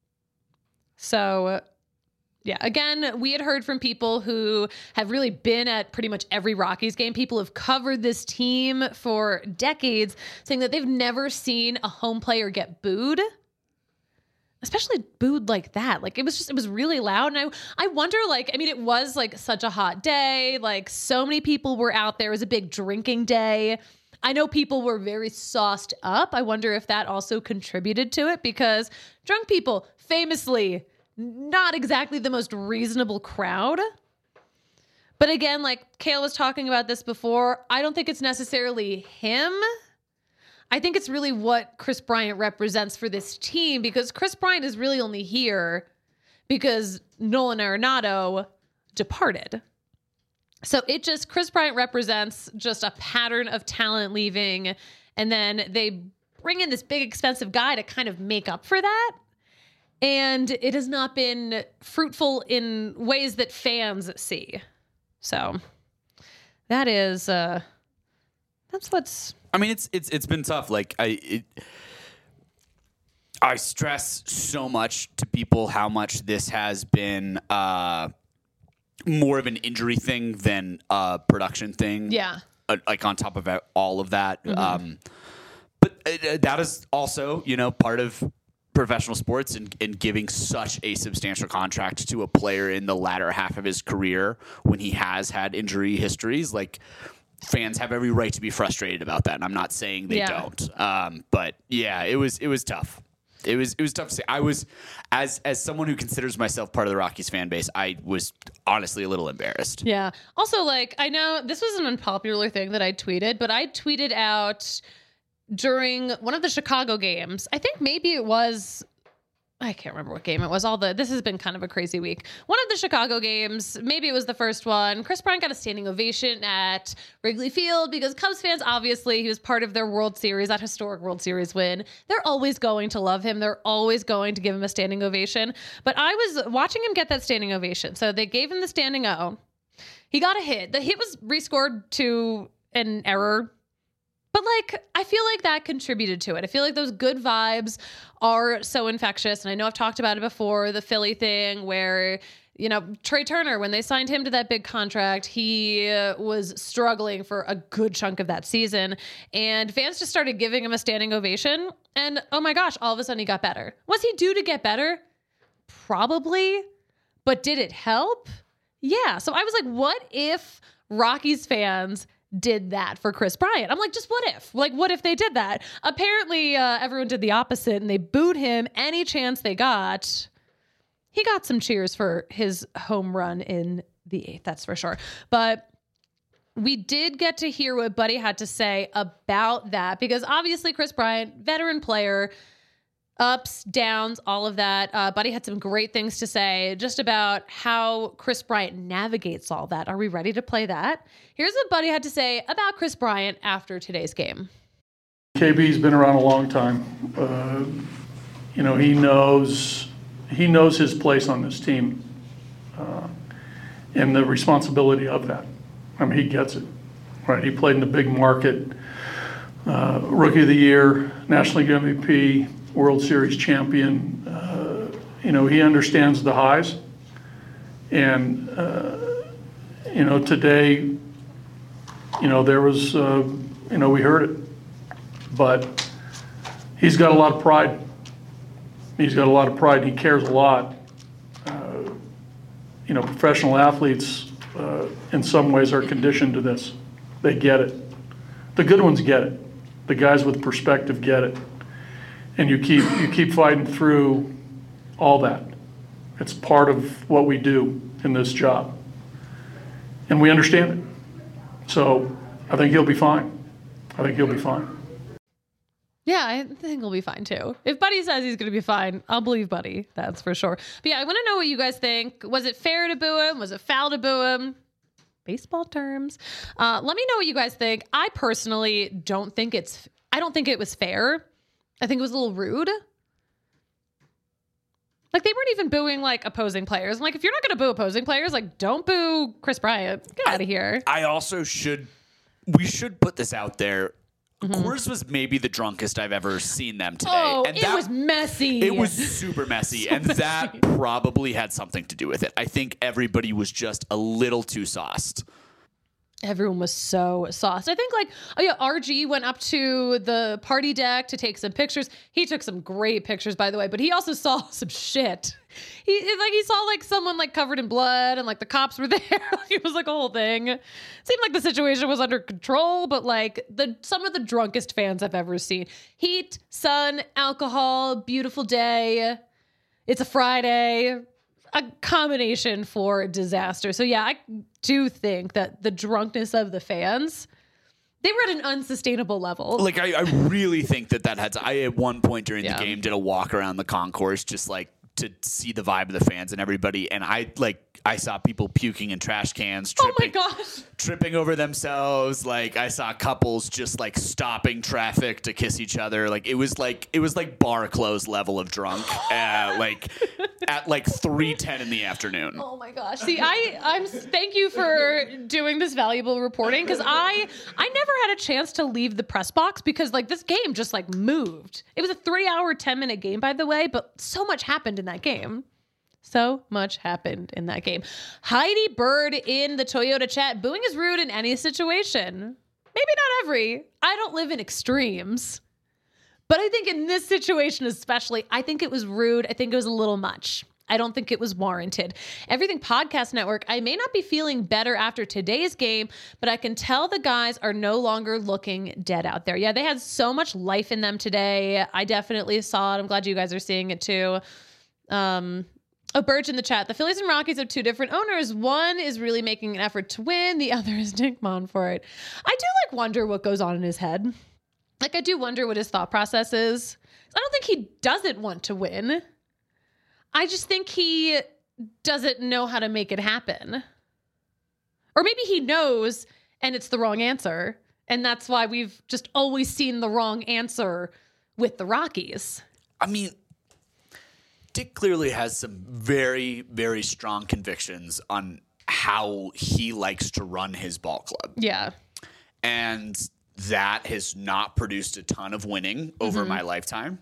Speaker 1: So, again, we had heard from people who have really been at pretty much every Rockies game. People have covered this team for decades, saying that they've never seen a home player get booed, especially booed like that. It was really loud. And I wonder, it was such a hot day. So many people were out there. It was a big drinking day. I know people were very sauced up. I wonder if that also contributed to it, because drunk people, famously, not exactly the most reasonable crowd. But again, Kale was talking about this before, I don't think it's necessarily him. I think it's really what Chris Bryant represents for this team, because Chris Bryant is really only here because Nolan Arenado departed. So Chris Bryant represents just a pattern of talent leaving, and then they bring in this big expensive guy to kind of make up for that. And it has not been fruitful in ways that fans see. So that is, that's what's.
Speaker 2: It's been tough. I stress so much to people how much this has been more of an injury thing than a production thing.
Speaker 1: Yeah.
Speaker 2: Like on top of all of that. But that is also, part of professional sports and giving such a substantial contract to a player in the latter half of his career when he has had injury histories. Like, fans have every right to be frustrated about that. And I'm not saying they don't. But yeah, it was tough. It was tough to say. I was, as someone who considers myself part of the Rockies fan base, I was honestly a little embarrassed.
Speaker 1: Yeah. Also, like, I know this was an unpopular thing that I tweeted, but I tweeted out during one of the Chicago games. I think maybe it was, I can't remember what game it was. This has been kind of a crazy week. One of the Chicago games, maybe it was the first one. Chris Bryant got a standing ovation at Wrigley Field because Cubs fans, obviously, he was part of their World Series, that historic World Series win. They're always going to love him. They're always going to give him a standing ovation. But I was watching him get that standing ovation. So they gave him the standing O. He got a hit. The hit was rescored to an error. But, like, I feel like that contributed to it. I feel like those good vibes are so infectious. And I know I've talked about it before, the Philly thing where, Trey Turner, when they signed him to that big contract, he was struggling for a good chunk of that season. And fans just started giving him a standing ovation. And, oh my gosh, all of a sudden he got better. Was he due to get better? Probably. But did it help? Yeah. So I was like, what if Rockies fans did that for Chris Bryant? I'm like, just what if? Like, what if they did that? Apparently, everyone did the opposite, and they booed him any chance they got. He got some cheers for his home run in the 8th, that's for sure. But we did get to hear what Buddy had to say about that, because obviously Chris Bryant, veteran player, ups, downs, all of that. Buddy had some great things to say just about how Chris Bryant navigates all that. Are we ready to play that? Here's what Buddy had to say about Chris Bryant after today's game.
Speaker 3: KB's been around a long time. He knows his place on this team and the responsibility of that. I mean, he gets it, right? He played in the big market, Rookie of the Year, National League MVP, World Series champion. He understands the highs. And, today, there was, we heard it. But he's got a lot of pride. He's got a lot of pride. He cares a lot. Professional athletes, in some ways, are conditioned to this. They get it. The good ones get it. The guys with perspective get it. And you keep fighting through all that. It's part of what we do in this job. And we understand it. So I think he'll be fine.
Speaker 1: Yeah, I think he'll be fine too. If Buddy says he's going to be fine, I'll believe Buddy. That's for sure. But yeah, I want to know what you guys think. Was it fair to boo him? Was it foul to boo him? Baseball terms. Let me know what you guys think. I personally don't think it was fair. I think it was a little rude. Like, they weren't even booing, like, opposing players. I'm like, if you're not going to boo opposing players, like, don't boo Chris Bryant. Get out of here.
Speaker 2: I also we should put this out there. Coors was maybe the drunkest I've ever seen them today.
Speaker 1: Oh, and it was messy.
Speaker 2: It was super messy. That probably had something to do with it. I think everybody was just a little too sauced.
Speaker 1: Everyone was so sauced. I think, RG went up to the party deck to take some pictures. He took some great pictures, by the way, but he also saw some shit. He saw someone covered in blood, and the cops were there. It was a whole thing. It seemed like the situation was under control, but some of the drunkest fans I've ever seen. Heat, sun, alcohol, beautiful day. It's a Friday. A combination for disaster. So yeah, I do think that the drunkenness of the fans, they were at an unsustainable level.
Speaker 2: I really think that had to, I at one point during the game did a walk around the concourse just to see the vibe of the fans and everybody, and I saw people puking in trash cans, tripping over themselves. I saw couples just stopping traffic to kiss each other. It was bar clothes level of drunk. at like 3:10 in the afternoon.
Speaker 1: Oh my gosh. See, I'm thank you for doing this valuable reporting, because I never had a chance to leave the press box because like this game just like moved. It was a 3-hour, 10-minute game, by the way, but so much happened in that game. So much happened in that game. Heidi Bird in the Toyota chat. Booing is rude in any situation. Maybe not every. I don't live in extremes. But I think in this situation especially, I think it was rude. I think it was a little much. I don't think it was warranted. Everything Podcast Network, I may not be feeling better after today's game, but I can tell the guys are no longer looking dead out there. Yeah, they had so much life in them today. I definitely saw it. I'm glad you guys are seeing it too. Burge in the chat. The Phillies and Rockies have two different owners. One is really making an effort to win. The other is Dick Monfort. I do like wonder what goes on in his head. Like, I do wonder what his thought process is. I don't think he doesn't want to win. I just think he doesn't know how to make it happen. Or maybe he knows and it's the wrong answer. And that's why we've just always seen the wrong answer with the Rockies.
Speaker 2: I mean, Dick clearly has some very, very strong convictions on how he likes to run his ball club.
Speaker 1: Yeah.
Speaker 2: And that has not produced a ton of winning over my lifetime.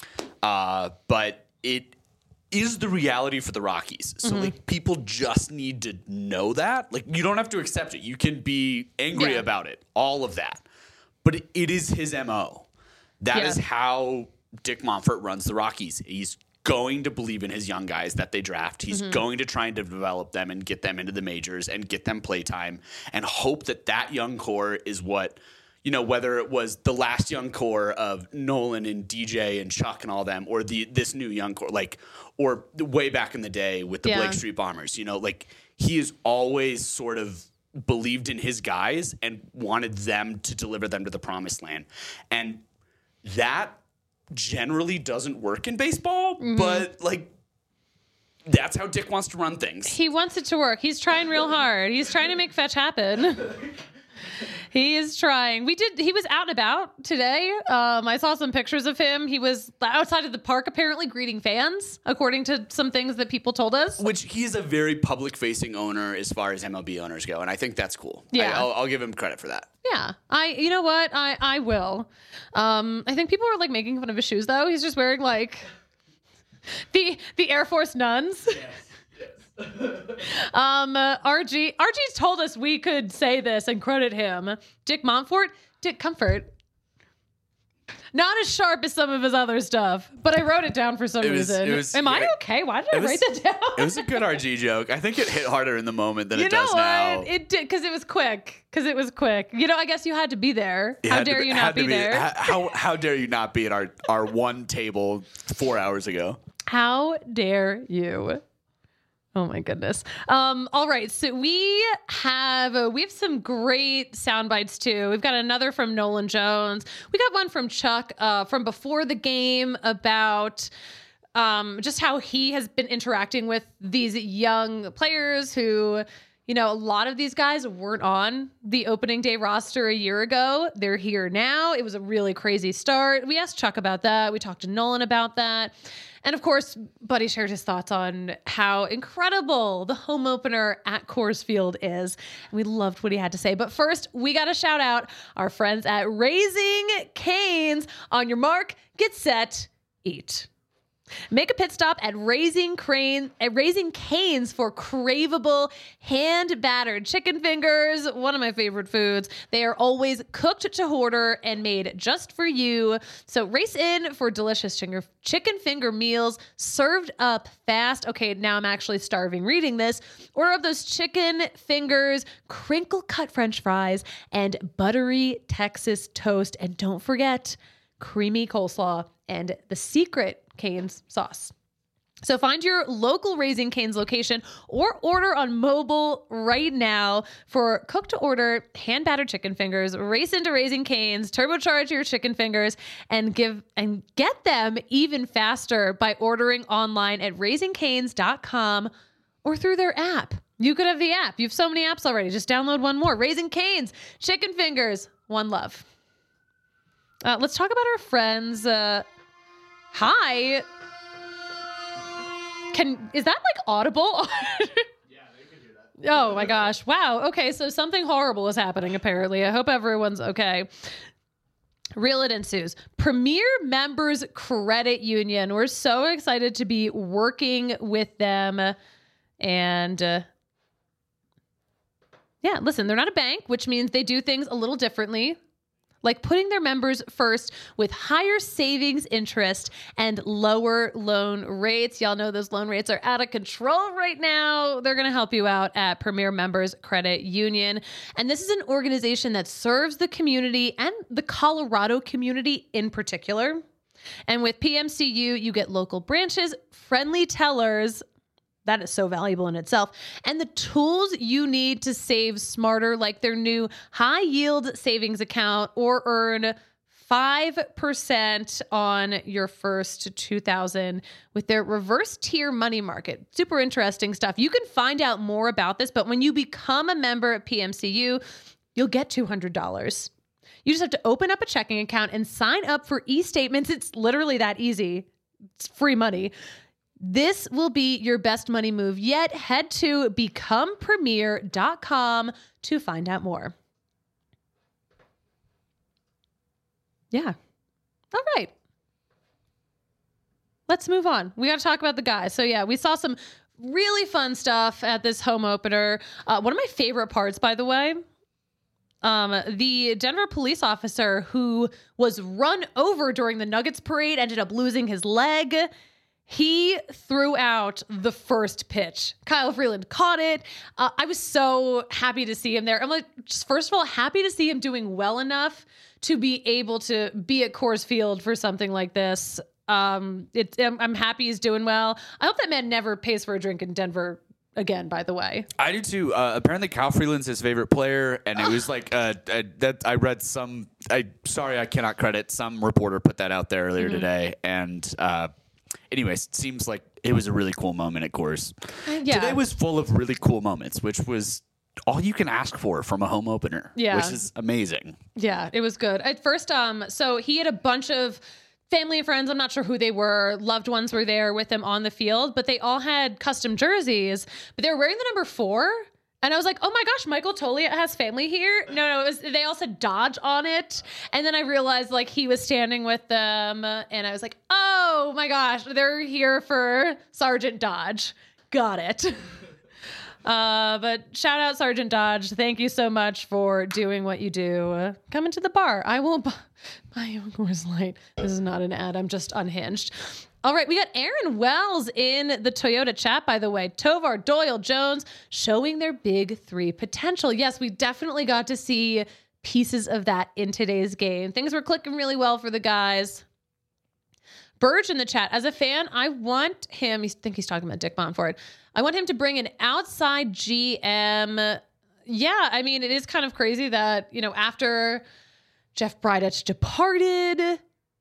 Speaker 2: But it is the reality for the Rockies. So like people just need to know that. Like you don't have to accept it. You can be angry about it, all of that. But it is his MO. That is how Dick Monfort runs the Rockies. He's going to believe in his young guys that they draft. He's going to try and develop them and get them into the majors and get them playtime and hope that that young core is what, you know, whether it was the last young core of Nolan and DJ and Chuck and all them, or this new young core, like, or way back in the day with the Blake Street Bombers, you know, like he has always sort of believed in his guys and wanted them to deliver them to the promised land. And that generally doesn't work in baseball, but like that's how Dick wants to run things.
Speaker 1: He wants it to work. He's trying real hard. He's trying to make fetch happen. He is trying. He was out and about today. I saw some pictures of him. He was outside of the park apparently greeting fans, according to some things that people told us.
Speaker 2: Which he is a very public-facing owner as far as MLB owners go, and I think that's cool.
Speaker 1: Yeah.
Speaker 2: I'll give him credit for that.
Speaker 1: Yeah. You know what? I will. I think people are like making fun of his shoes though. He's just wearing like the Air Force nuns.
Speaker 4: Yes.
Speaker 1: RG's told us we could say this and credit him. Dick Monfort, Dick Comfort. Not as sharp as some of his other stuff, but I wrote it down for some reason. Am I okay? Why did I write that down?
Speaker 2: It was a good RG joke. I think it hit harder in the moment than it does
Speaker 1: what?
Speaker 2: now.
Speaker 1: It did, because it was quick. You know, I guess you had to be there. How dare you not be there?
Speaker 2: How dare you not be at our one table 4 hours ago?
Speaker 1: How dare you? Oh my goodness. All right. So we have some great sound bites too. We've got another from Nolan Jones. We got one from Chuck from before the game about just how he has been interacting with these young players who, you know, a lot of these guys weren't on the opening day roster a year ago. They're here now. It was a really crazy start. We asked Chuck about that. We talked to Nolan about that. And of course, Buddy shared his thoughts on how incredible the home opener at Coors Field is. And we loved what he had to say. But first, we got to shout out our friends at Raising Cane's. On your mark, get set, eat. Make a pit stop at Raising Cane's for craveable hand-battered chicken fingers, one of my favorite foods. They are always cooked to order and made just for you. So race in for delicious chicken finger meals served up fast. Okay, now I'm actually starving reading this. Order up those chicken fingers, crinkle-cut French fries, and buttery Texas toast. And don't forget, creamy coleslaw and the secret Cane's sauce. So find your local Raising Cane's location or order on mobile right now for cook to order hand-battered chicken fingers. Race into Raising Cane's, turbocharge your chicken fingers, and get them even faster by ordering online at raisingcanes.com or through their app. You could have the app. You have so many apps already. Just download one more. Raising Cane's, chicken fingers, one love. Let's talk about our friends. Hi. Is that like audible? Oh my gosh. Wow. Okay. So something horrible is happening, apparently. I hope everyone's okay. Real It Ensues. Premier Members Credit Union. We're so excited to be working with them. And yeah, listen, they're not a bank, which means they do things a little differently. Like putting their members first with higher savings interest and lower loan rates. Y'all know those loan rates are out of control right now. They're going to help you out at Premier Members Credit Union. And this is an organization that serves the community and the Colorado community in particular. And with PMCU, you get local branches, friendly tellers. That is so valuable in itself. And the tools you need to save smarter, like their new high yield savings account, or earn 5% on your first $2,000 with their reverse tier money market. Super interesting stuff. You can find out more about this, but when you become a member at PMCU, you'll get $200. You just have to open up a checking account and sign up for e-statements. It's literally that easy. It's free money. This will be your best money move yet. Head to becomepremier.com to find out more. Yeah. All right. Let's move on. We got to talk about the guys. So yeah, we saw some really fun stuff at this home opener. One of my favorite parts, by the way, the Denver police officer who was run over during the Nuggets parade ended up losing his leg. He threw out the first pitch. Kyle Freeland caught it. I was so happy to see him there. I'm like, just first of all, happy to see him doing well enough to be able to be at Coors Field for something like this. I'm happy he's doing well. I hope that man never pays for a drink in Denver again, by the way.
Speaker 2: I do too. Apparently Kyle Freeland's his favorite player, and it was like that I read some. I cannot credit, some reporter put that out there earlier today, and anyways, it seems like it was a really cool moment at Coors.
Speaker 1: Yeah.
Speaker 2: Today was full of really cool moments, which was all you can ask for from a home opener.
Speaker 1: Yeah.
Speaker 2: Which is amazing.
Speaker 1: Yeah, it was good. At first, so he had a bunch of family and friends, I'm not sure who they were, loved ones were there with him on the field, but they all had custom jerseys, but they were wearing the number 4. And I was like, oh my gosh, Michael Toliat has family here? No, they all said Dodge on it. And then I realized like he was standing with them, and I was like, oh my gosh, they're here for Sergeant Dodge. Got it. But shout out Sergeant Dodge. Thank you so much for doing what you do. Come into the bar. I will buy you a Coors Light. This is not an ad. I'm just unhinged. All right, we got Aaron Wells in the Toyota chat, by the way. Tovar, Doyle, Jones showing their big 3 potential. Yes, we definitely got to see pieces of that in today's game. Things were clicking really well for the guys. Burge in the chat. As a fan, I want him, I think he's talking about Dick Monfort. I want him to bring an outside GM. Yeah, I mean, it is kind of crazy that, after Jeff Bridich departed,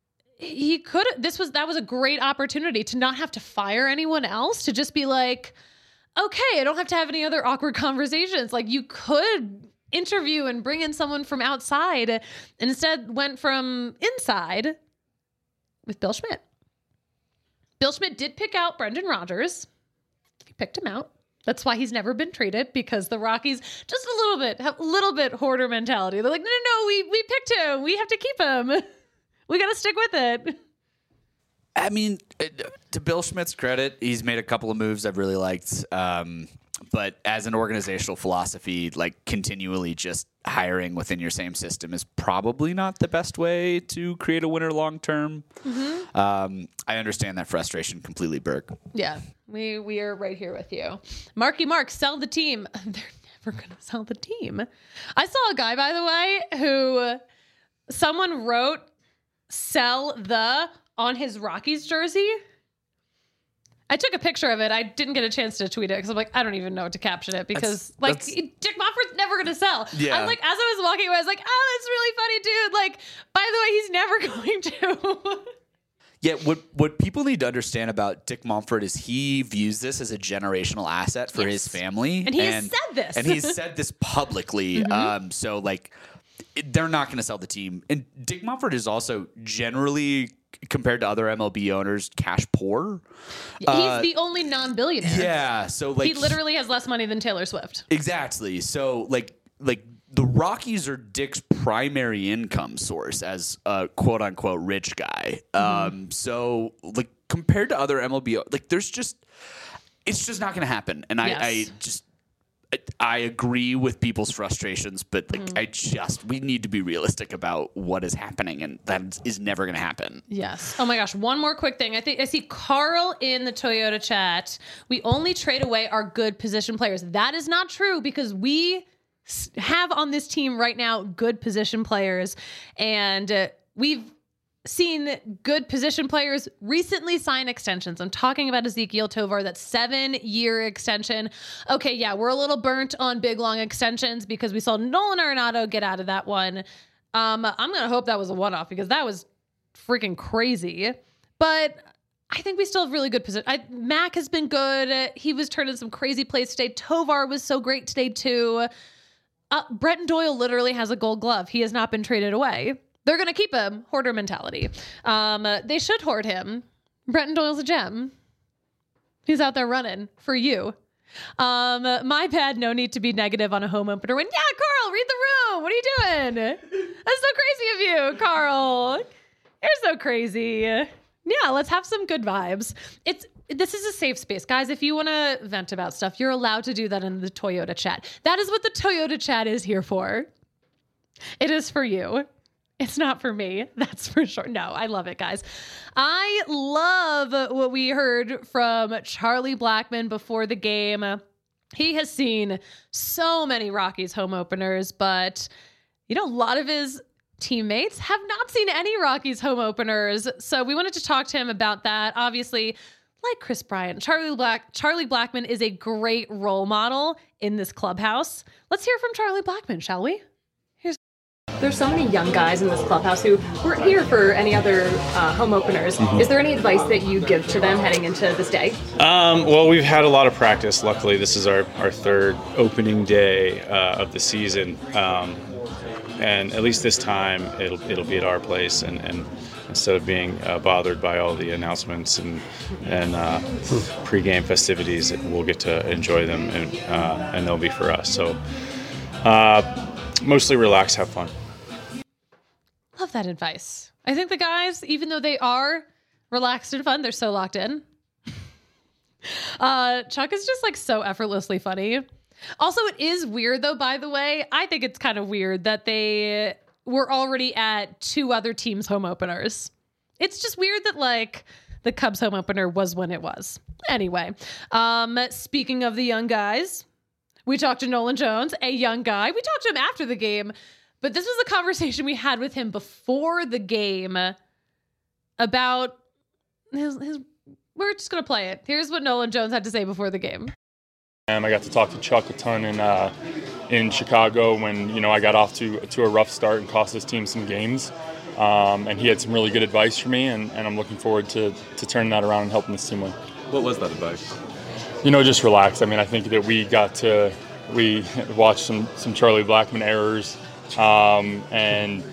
Speaker 1: that was a great opportunity to not have to fire anyone else, to just be like, okay, I don't have to have any other awkward conversations. Like, you could interview and bring in someone from outside, and instead went from inside with Bill Schmidt. Bill Schmidt did pick out Brendan Rodgers. He picked him out. That's why he's never been traded, because the Rockies just have a little bit hoarder mentality. They're like, no, we picked him. We have to keep him. We got to stick with it.
Speaker 2: I mean, to Bill Schmidt's credit, he's made a couple of moves I've really liked. But as an organizational philosophy, like continually just hiring within your same system is probably not the best way to create a winner long term. Mm-hmm. I understand that frustration completely, Burke.
Speaker 1: Yeah, we are right here with you. Marky Mark, sell the team. They're never going to sell the team. I saw a guy, by the way, who someone wrote "sell the" on his Rockies jersey. I took a picture of it. I didn't get a chance to tweet it because I'm like, I don't even know what to caption it, because Dick Monfort's never going to sell.
Speaker 2: Yeah.
Speaker 1: I'm like, as I was walking away, I was like, oh, that's really funny, dude. Like, by the way, he's never going to.
Speaker 2: Yeah, what people need to understand about Dick Monfort is he views this as a generational asset for his family.
Speaker 1: And he has said this.
Speaker 2: And he's said this publicly. Mm-hmm. So, like, they're not going to sell the team. And Dick Monfort is also generally compared to other MLB owners, cash poor.
Speaker 1: He's the only non-billionaire.
Speaker 2: Yeah, so like
Speaker 1: He literally has less money than Taylor Swift.
Speaker 2: exactly. So like the Rockies are Dick's primary income source as a quote unquote rich guy. So like compared to other MLB, like it's just not going to happen. And
Speaker 1: Yes.
Speaker 2: I agree with people's frustrations, but like we need to be realistic about what is happening, and that is never going to happen.
Speaker 1: Yes. Oh my gosh. One more quick thing. I see Carl in the Toyota chat. We only trade away our good position players. That is not true because we have on this team right now good position players, and we've seen good position players recently sign extensions. I'm talking about Ezequiel Tovar, that 7-year extension. Okay, yeah, we're a little burnt on big, long extensions because we saw Nolan Arenado get out of that one. I'm going to hope that was a one-off because that was freaking crazy. But I think we still have really good position. Mac has been good. He was turning some crazy plays today. Tovar was so great today, too. Brenton Doyle literally has a gold glove. He has not been traded away. They're going to keep him. Hoarder mentality. They should hoard him. Brenton Doyle's a gem. He's out there running for you. My bad. No need to be negative on a home opener win. Yeah, Carl, read the room. What are you doing? That's so crazy of you, Carl. You're so crazy. Yeah, let's have some good vibes. This is a safe space. Guys, if you want to vent about stuff, you're allowed to do that in the Toyota chat. That is what the Toyota chat is here for. It is for you. It's not for me. That's for sure. No, I love it, guys. I love what we heard from Charlie Blackmon before the game. He has seen so many Rockies home openers, but a lot of his teammates have not seen any Rockies home openers. So we wanted to talk to him about that. Obviously, like Chris Bryant, Charlie Blackmon is a great role model in this clubhouse. Let's hear from Charlie Blackmon, shall we?
Speaker 7: There's so many young guys in this clubhouse who weren't here for any other home openers. Is there any advice that you give to them heading into this day?
Speaker 5: Well, we've had a lot of practice. Luckily, this is our third opening day of the season. And at least this time, it'll be at our place. And instead of being bothered by all the announcements and pregame festivities, we'll get to enjoy them, and they'll be for us. So mostly relax, have fun.
Speaker 1: Love that advice. I think the guys, even though they are relaxed and fun, they're so locked in. Chuck is just like so effortlessly funny. Also, it is weird though, by the way. I think it's kind of weird that they were already at 2 other teams' home openers. It's just weird that like the Cubs home opener was when it was. Anyway, speaking of the young guys, we talked to Nolan Jones, a young guy. We talked to him after the game, but this was a conversation we had with him before the game about his we're just going to play it. Here's what Nolan Jones had to say before the game.
Speaker 6: I got to talk to Chuck a ton in Chicago when, I got off to a rough start and cost this team some games. And he had some really good advice for me, and I'm looking forward to turning that around and helping this team win.
Speaker 4: What was that advice?
Speaker 6: Just relax. I mean, I think that we watched some Charlie Blackmon errors, and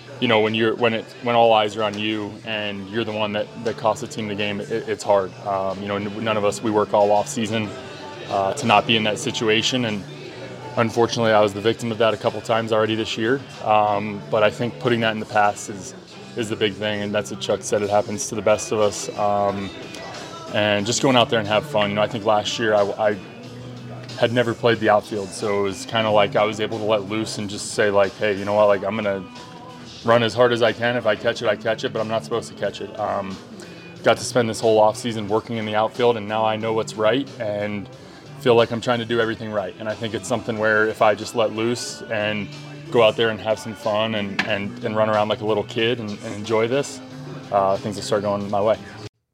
Speaker 6: when all eyes are on you and you're the one that cost the team the game, it's hard. None of us, we work all off season to not be in that situation, and unfortunately, I was the victim of that a couple times already this year. But I think putting that in the past is the big thing, and that's what Chuck said. It happens to the best of us. And just going out there and have fun. I think last year I had never played the outfield, so it was kind of like I was able to let loose and just say like, hey, you know what? Like I'm gonna run as hard as I can. If I catch it, I catch it, but I'm not supposed to catch it. Got to spend this whole off season working in the outfield, and now I know what's right and feel like I'm trying to do everything right. And I think it's something where if I just let loose and go out there and have some fun and run around like a little kid and enjoy this, things will start going my way.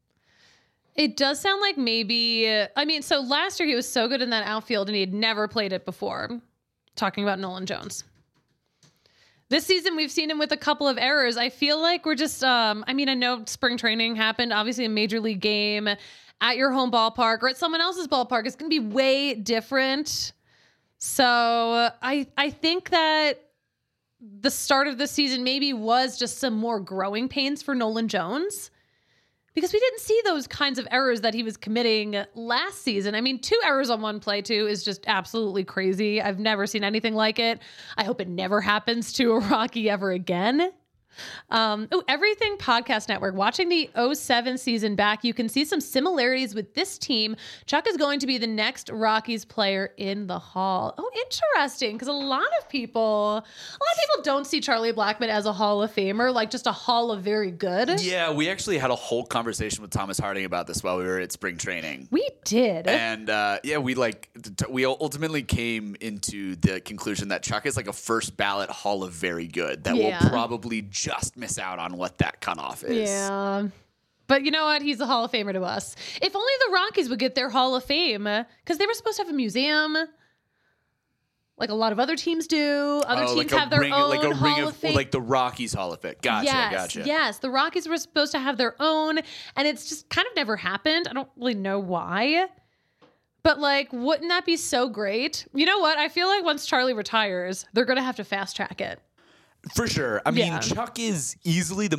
Speaker 1: It does sound like so last year he was so good in that outfield and he had never played it before. Talking about Nolan Jones. This season, we've seen him with a couple of errors. I feel like we're just, I know spring training happened, obviously a major league game at your home ballpark or at someone else's ballpark. It's going to be way different. So I think that the start of the season maybe was just some more growing pains for Nolan Jones, because we didn't see those kinds of errors that he was committing last season. I mean, 2 errors on one play too is just absolutely crazy. I've never seen anything like it. I hope it never happens to a Rocky ever again. Everything Podcast Network. Watching the 07 season back, you can see some similarities with this team. Chuck is going to be the next Rockies player in the Hall. Oh, interesting, because a lot of people don't see Charlie Blackmon as a Hall of Famer, like just a Hall of very good.
Speaker 2: Yeah, we actually had a whole conversation with Thomas Harding about this while we were at spring training.
Speaker 1: We did.
Speaker 2: And we ultimately came into the conclusion that Chuck is like a first ballot Hall of very good that will probably just miss out on what that cutoff is.
Speaker 1: Yeah. But you know what? He's a Hall of Famer to us. If only the Rockies would get their Hall of Fame, because they were supposed to have a museum, like a lot of other teams do. Other teams have their own Hall of Fame.
Speaker 2: Like the Rockies Hall of Fame. Gotcha.
Speaker 1: Yes, the Rockies were supposed to have their own, and it's just kind of never happened. I don't really know why. But, like, wouldn't that be so great? You know what? I feel like once Charlie retires, they're going to have to fast track it.
Speaker 2: For sure. I mean, Chuck is easily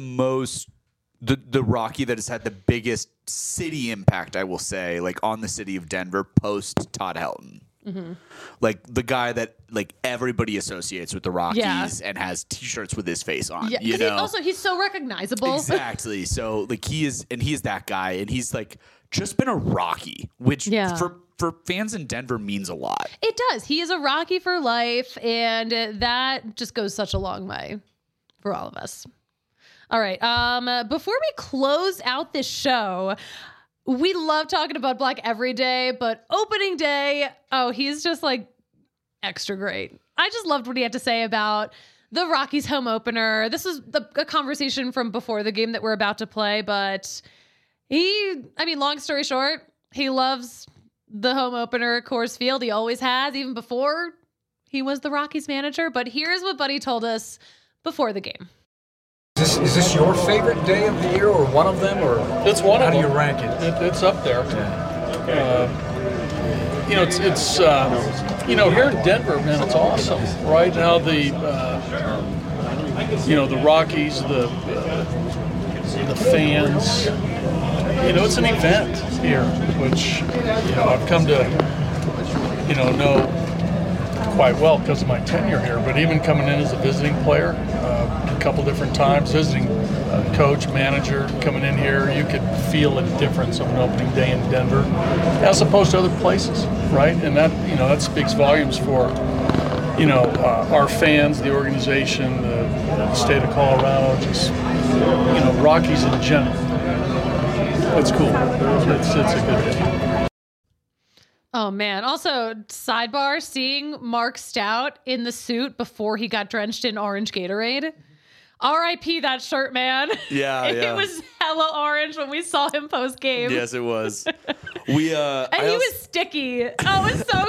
Speaker 2: the Rocky that has had the biggest city impact, I will say, like on the city of Denver post Todd Helton. Mm-hmm. Like the guy that like everybody associates with the Rockies and has T-shirts with his face on. Yeah,
Speaker 1: you know? He's so recognizable.
Speaker 2: Exactly. So like he is that guy, and he's like just been a Rocky, which for fans in Denver means a lot.
Speaker 1: It does. He is a Rocky for life, and that just goes such a long way for all of us. All right. Before we close out this show, we love talking about Black every day, but opening day, he's just like extra great. I just loved what he had to say about the Rockies home opener. This is a conversation from before the game that we're about to play, but long story short, he loves the home opener at Coors Field. He always has, even before he was the Rockies manager. But here's what Buddy told us before the game.
Speaker 8: Is this your favorite day of the year, or one of them, or
Speaker 3: it's one of them?
Speaker 8: How do you rank it?
Speaker 3: It's up there. It's here in Denver, man, it's awesome. Right now, the Rockies, the fans. It's an event here, which I've come to know quite well because of my tenure here. But even coming in as a visiting player, a couple different times, visiting coach, manager, coming in here, you could feel a difference of an opening day in Denver as opposed to other places, right? And that speaks volumes for our fans, the organization, the state of Colorado, just Rockies in general. It's cool. It's a good day.
Speaker 1: Oh, man. Also, sidebar, seeing Mark Stout in the suit before he got drenched in orange Gatorade. R.I.P. that shirt, man.
Speaker 2: Yeah.
Speaker 1: It was hella orange when we saw him post-game.
Speaker 2: Yes, it was. And
Speaker 1: he was sticky. Oh, it was so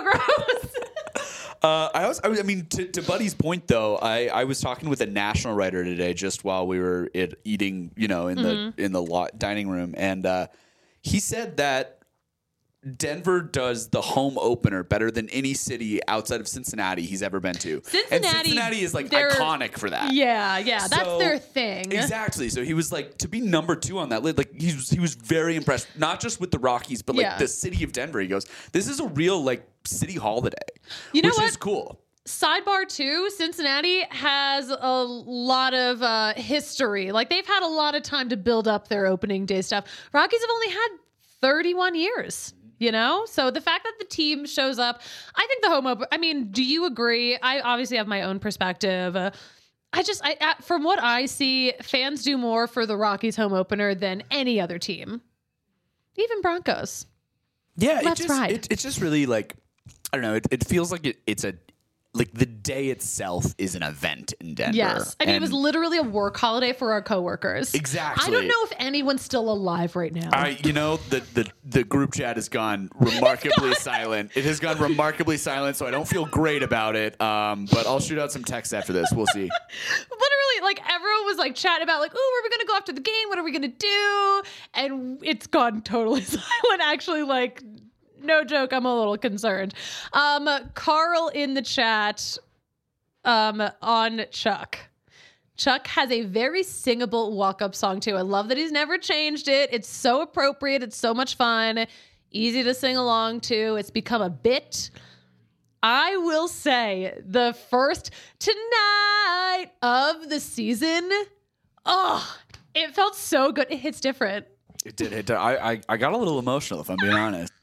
Speaker 1: gross.
Speaker 2: To Buddy's point, though, I was talking with a national writer today just while we were eating, in the dining room, and he said that Denver does the home opener better than any city outside of Cincinnati he's ever been to. Cincinnati is like iconic for that.
Speaker 1: Yeah, that's their thing.
Speaker 2: Exactly. So he was like, to be number 2 on that list, like he was very impressed, not just with the Rockies, but like the city of Denver. He goes, this is a real like city holiday, which is cool.
Speaker 1: Sidebar too, Cincinnati has a lot of history. Like they've had a lot of time to build up their opening day stuff. Rockies have only had 31 years. So the fact that the team shows up, I think the home opener, do you agree? I obviously have my own perspective. From what I see, fans do more for the Rockies home opener than any other team. Even Broncos.
Speaker 2: Yeah, it's just really like, I don't know, it feels like it's like the day itself is an event in Denver.
Speaker 1: Yes. It was literally a work holiday for our coworkers.
Speaker 2: Exactly.
Speaker 1: I don't know if anyone's still alive right now.
Speaker 2: The group chat has gone remarkably silent. It has gone remarkably silent, so I don't feel great about it. But I'll shoot out some texts after this. We'll see.
Speaker 1: Literally, like everyone was like chatting about like, oh, where are we going to go after the game? What are we going to do? And it's gone totally silent. Actually, like, no joke, I'm a little concerned. Carl in the chat on Chuck. Chuck has a very singable walk-up song too. I love that he's never changed it. It's so appropriate. It's so much fun. Easy to sing along to. It's become a bit. I will say the first Tonight of the season, it felt so good. It hits different.
Speaker 2: It did. I got a little emotional, if I'm being honest.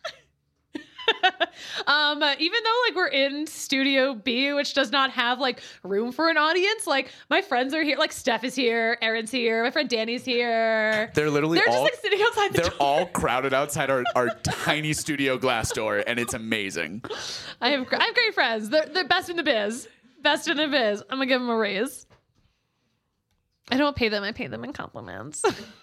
Speaker 1: Even though like we're in Studio B, which does not have like room for an audience, like my friends are here, like Steph is here, Erin's here, my friend Danny's here.
Speaker 2: They're
Speaker 1: just like sitting outside the door.
Speaker 2: They're all crowded outside our tiny studio glass door, and it's amazing.
Speaker 1: I have great friends. They're best in the biz. Best in the biz. I'm gonna give them a raise. I don't pay them. I pay them in compliments.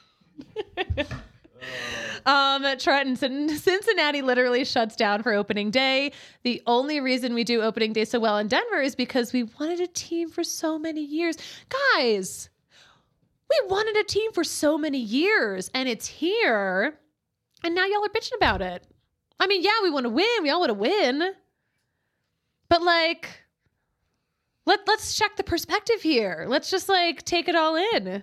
Speaker 1: Trenton, Cincinnati literally shuts down for opening day. The only reason we do opening day so well in Denver is because we wanted a team for so many years. Guys, we wanted a team for so many years, and it's here. And now y'all are bitching about it. I mean, yeah, we want to win. We all want to win. But like, let's check the perspective here. Let's just like take it all in.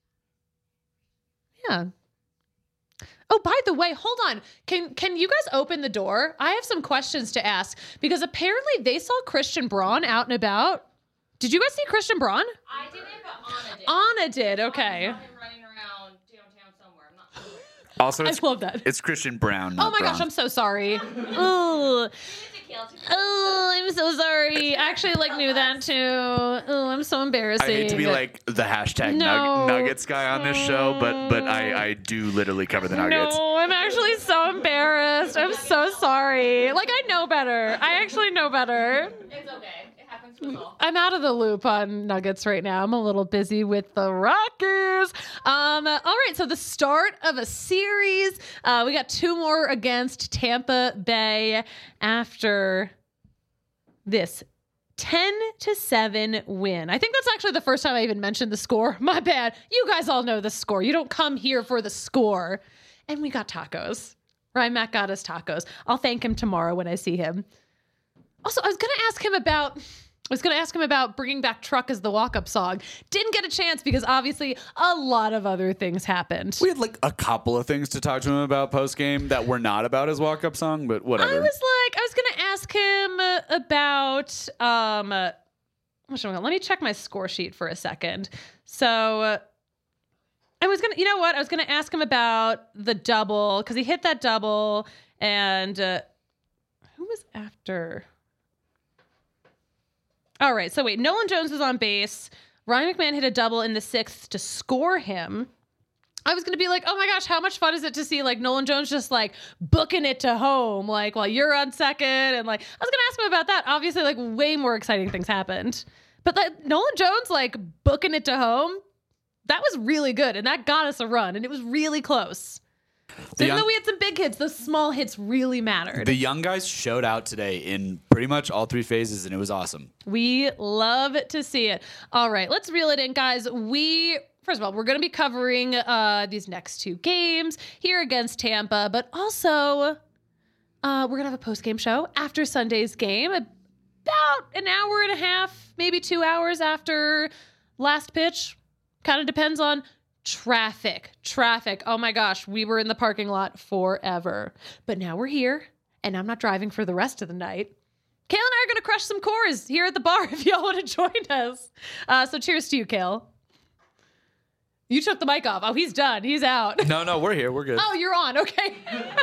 Speaker 1: Yeah. Oh, by the way, hold on. Can you guys open the door? I have some questions to ask because apparently they saw Christian Braun out and about. Did you guys see Christian Braun?
Speaker 9: I didn't, but Anna did.
Speaker 1: Anna did. Okay.
Speaker 9: I saw him running around downtown somewhere. I'm not sure.
Speaker 2: Also,
Speaker 1: I love that.
Speaker 2: It's Christian Brown.
Speaker 1: Oh my gosh, I'm so sorry. Oh, I'm so sorry. I actually like knew that too. Oh, I'm so embarrassing.
Speaker 2: I hate to be like the hashtag Nuggets guy on this show, but I do literally cover the Nuggets.
Speaker 1: No, I'm actually so embarrassed. I'm so sorry. Like, I know better. I actually know better.
Speaker 9: It's okay. It happens to us all.
Speaker 1: I'm out of the loop on Nuggets right now. I'm a little busy with the Rockies. All right, so the start of a series. We got 2 more against Tampa Bay after this 10-7 win. I think that's actually the first time I even mentioned the score. My bad. You guys all know the score. You don't come here for the score. And we got tacos. Rymac got us tacos. I'll thank him tomorrow when I see him. Also, I was going to ask him about bringing back Truck as the walk-up song. Didn't get a chance because obviously a lot of other things happened.
Speaker 2: We had like a couple of things to talk to him about post-game that were not about his walk-up song, but whatever.
Speaker 1: I was going to ask him about, let me check my score sheet for a second. So I was going to ask him about the double because he hit that double and who was after? All right, so wait, Nolan Jones was on base. Ryan McMahon hit a double in the 6th to score him. I was going to be like, oh my gosh, how much fun is it to see like Nolan Jones just like booking it to home, like while you're on second. And like, I was going to ask him about that. Obviously, like way more exciting things happened. But like Nolan Jones like booking it to home, that was really good. And that got us a run. And it was really close. So even though we had some big hits, those small hits really mattered.
Speaker 2: The young guys showed out today in pretty much all 3 phases, and it was awesome.
Speaker 1: We love to see it. All right, let's reel it in, guys. First of all, we're going to be covering these next 2 games here against Tampa, but also we're going to have a post-game show after Sunday's game, about an hour and a half, maybe 2 hours after last pitch. Kind of depends on traffic. Oh my gosh, we were in the parking lot forever. But now we're here, and I'm not driving for the rest of the night. Kale and I are going to crush some Coors here at the bar if y'all want to join us. So cheers to you, Kale. You took the mic off. Oh, he's done. He's out.
Speaker 2: No, we're here. We're good.
Speaker 1: Oh, you're on. Okay.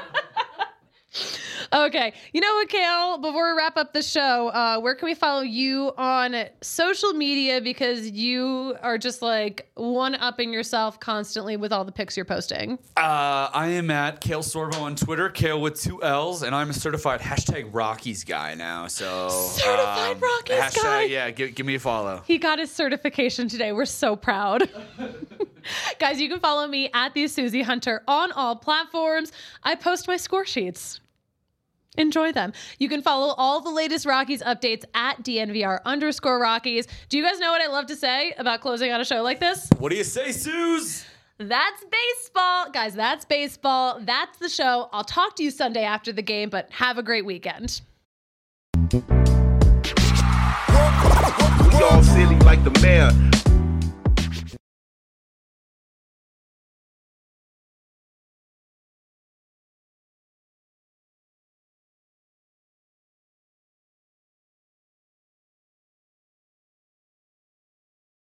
Speaker 1: Okay. You know what, Kale? Before we wrap up the show, where can we follow you on social media? Because you are just like one-upping yourself constantly with all the pics you're posting.
Speaker 2: I am at Kale Sorvo on Twitter, Kale with 2 L's, and I'm a certified #Rockies guy now. So
Speaker 1: certified Rockies guy.
Speaker 2: Yeah, give me a follow.
Speaker 1: He got his certification today. We're so proud. Guys, you can follow me at the Susie Hunter on all platforms. I post my score sheets. Enjoy them. You can follow all the latest Rockies updates at DNVR_Rockies. Do you guys know what I love to say about closing out a show like this?
Speaker 2: What do you say, Suze?
Speaker 1: That's baseball. Guys, that's baseball. That's the show. I'll talk to you Sunday after the game, but have a great weekend.
Speaker 4: We
Speaker 10: like the mayor.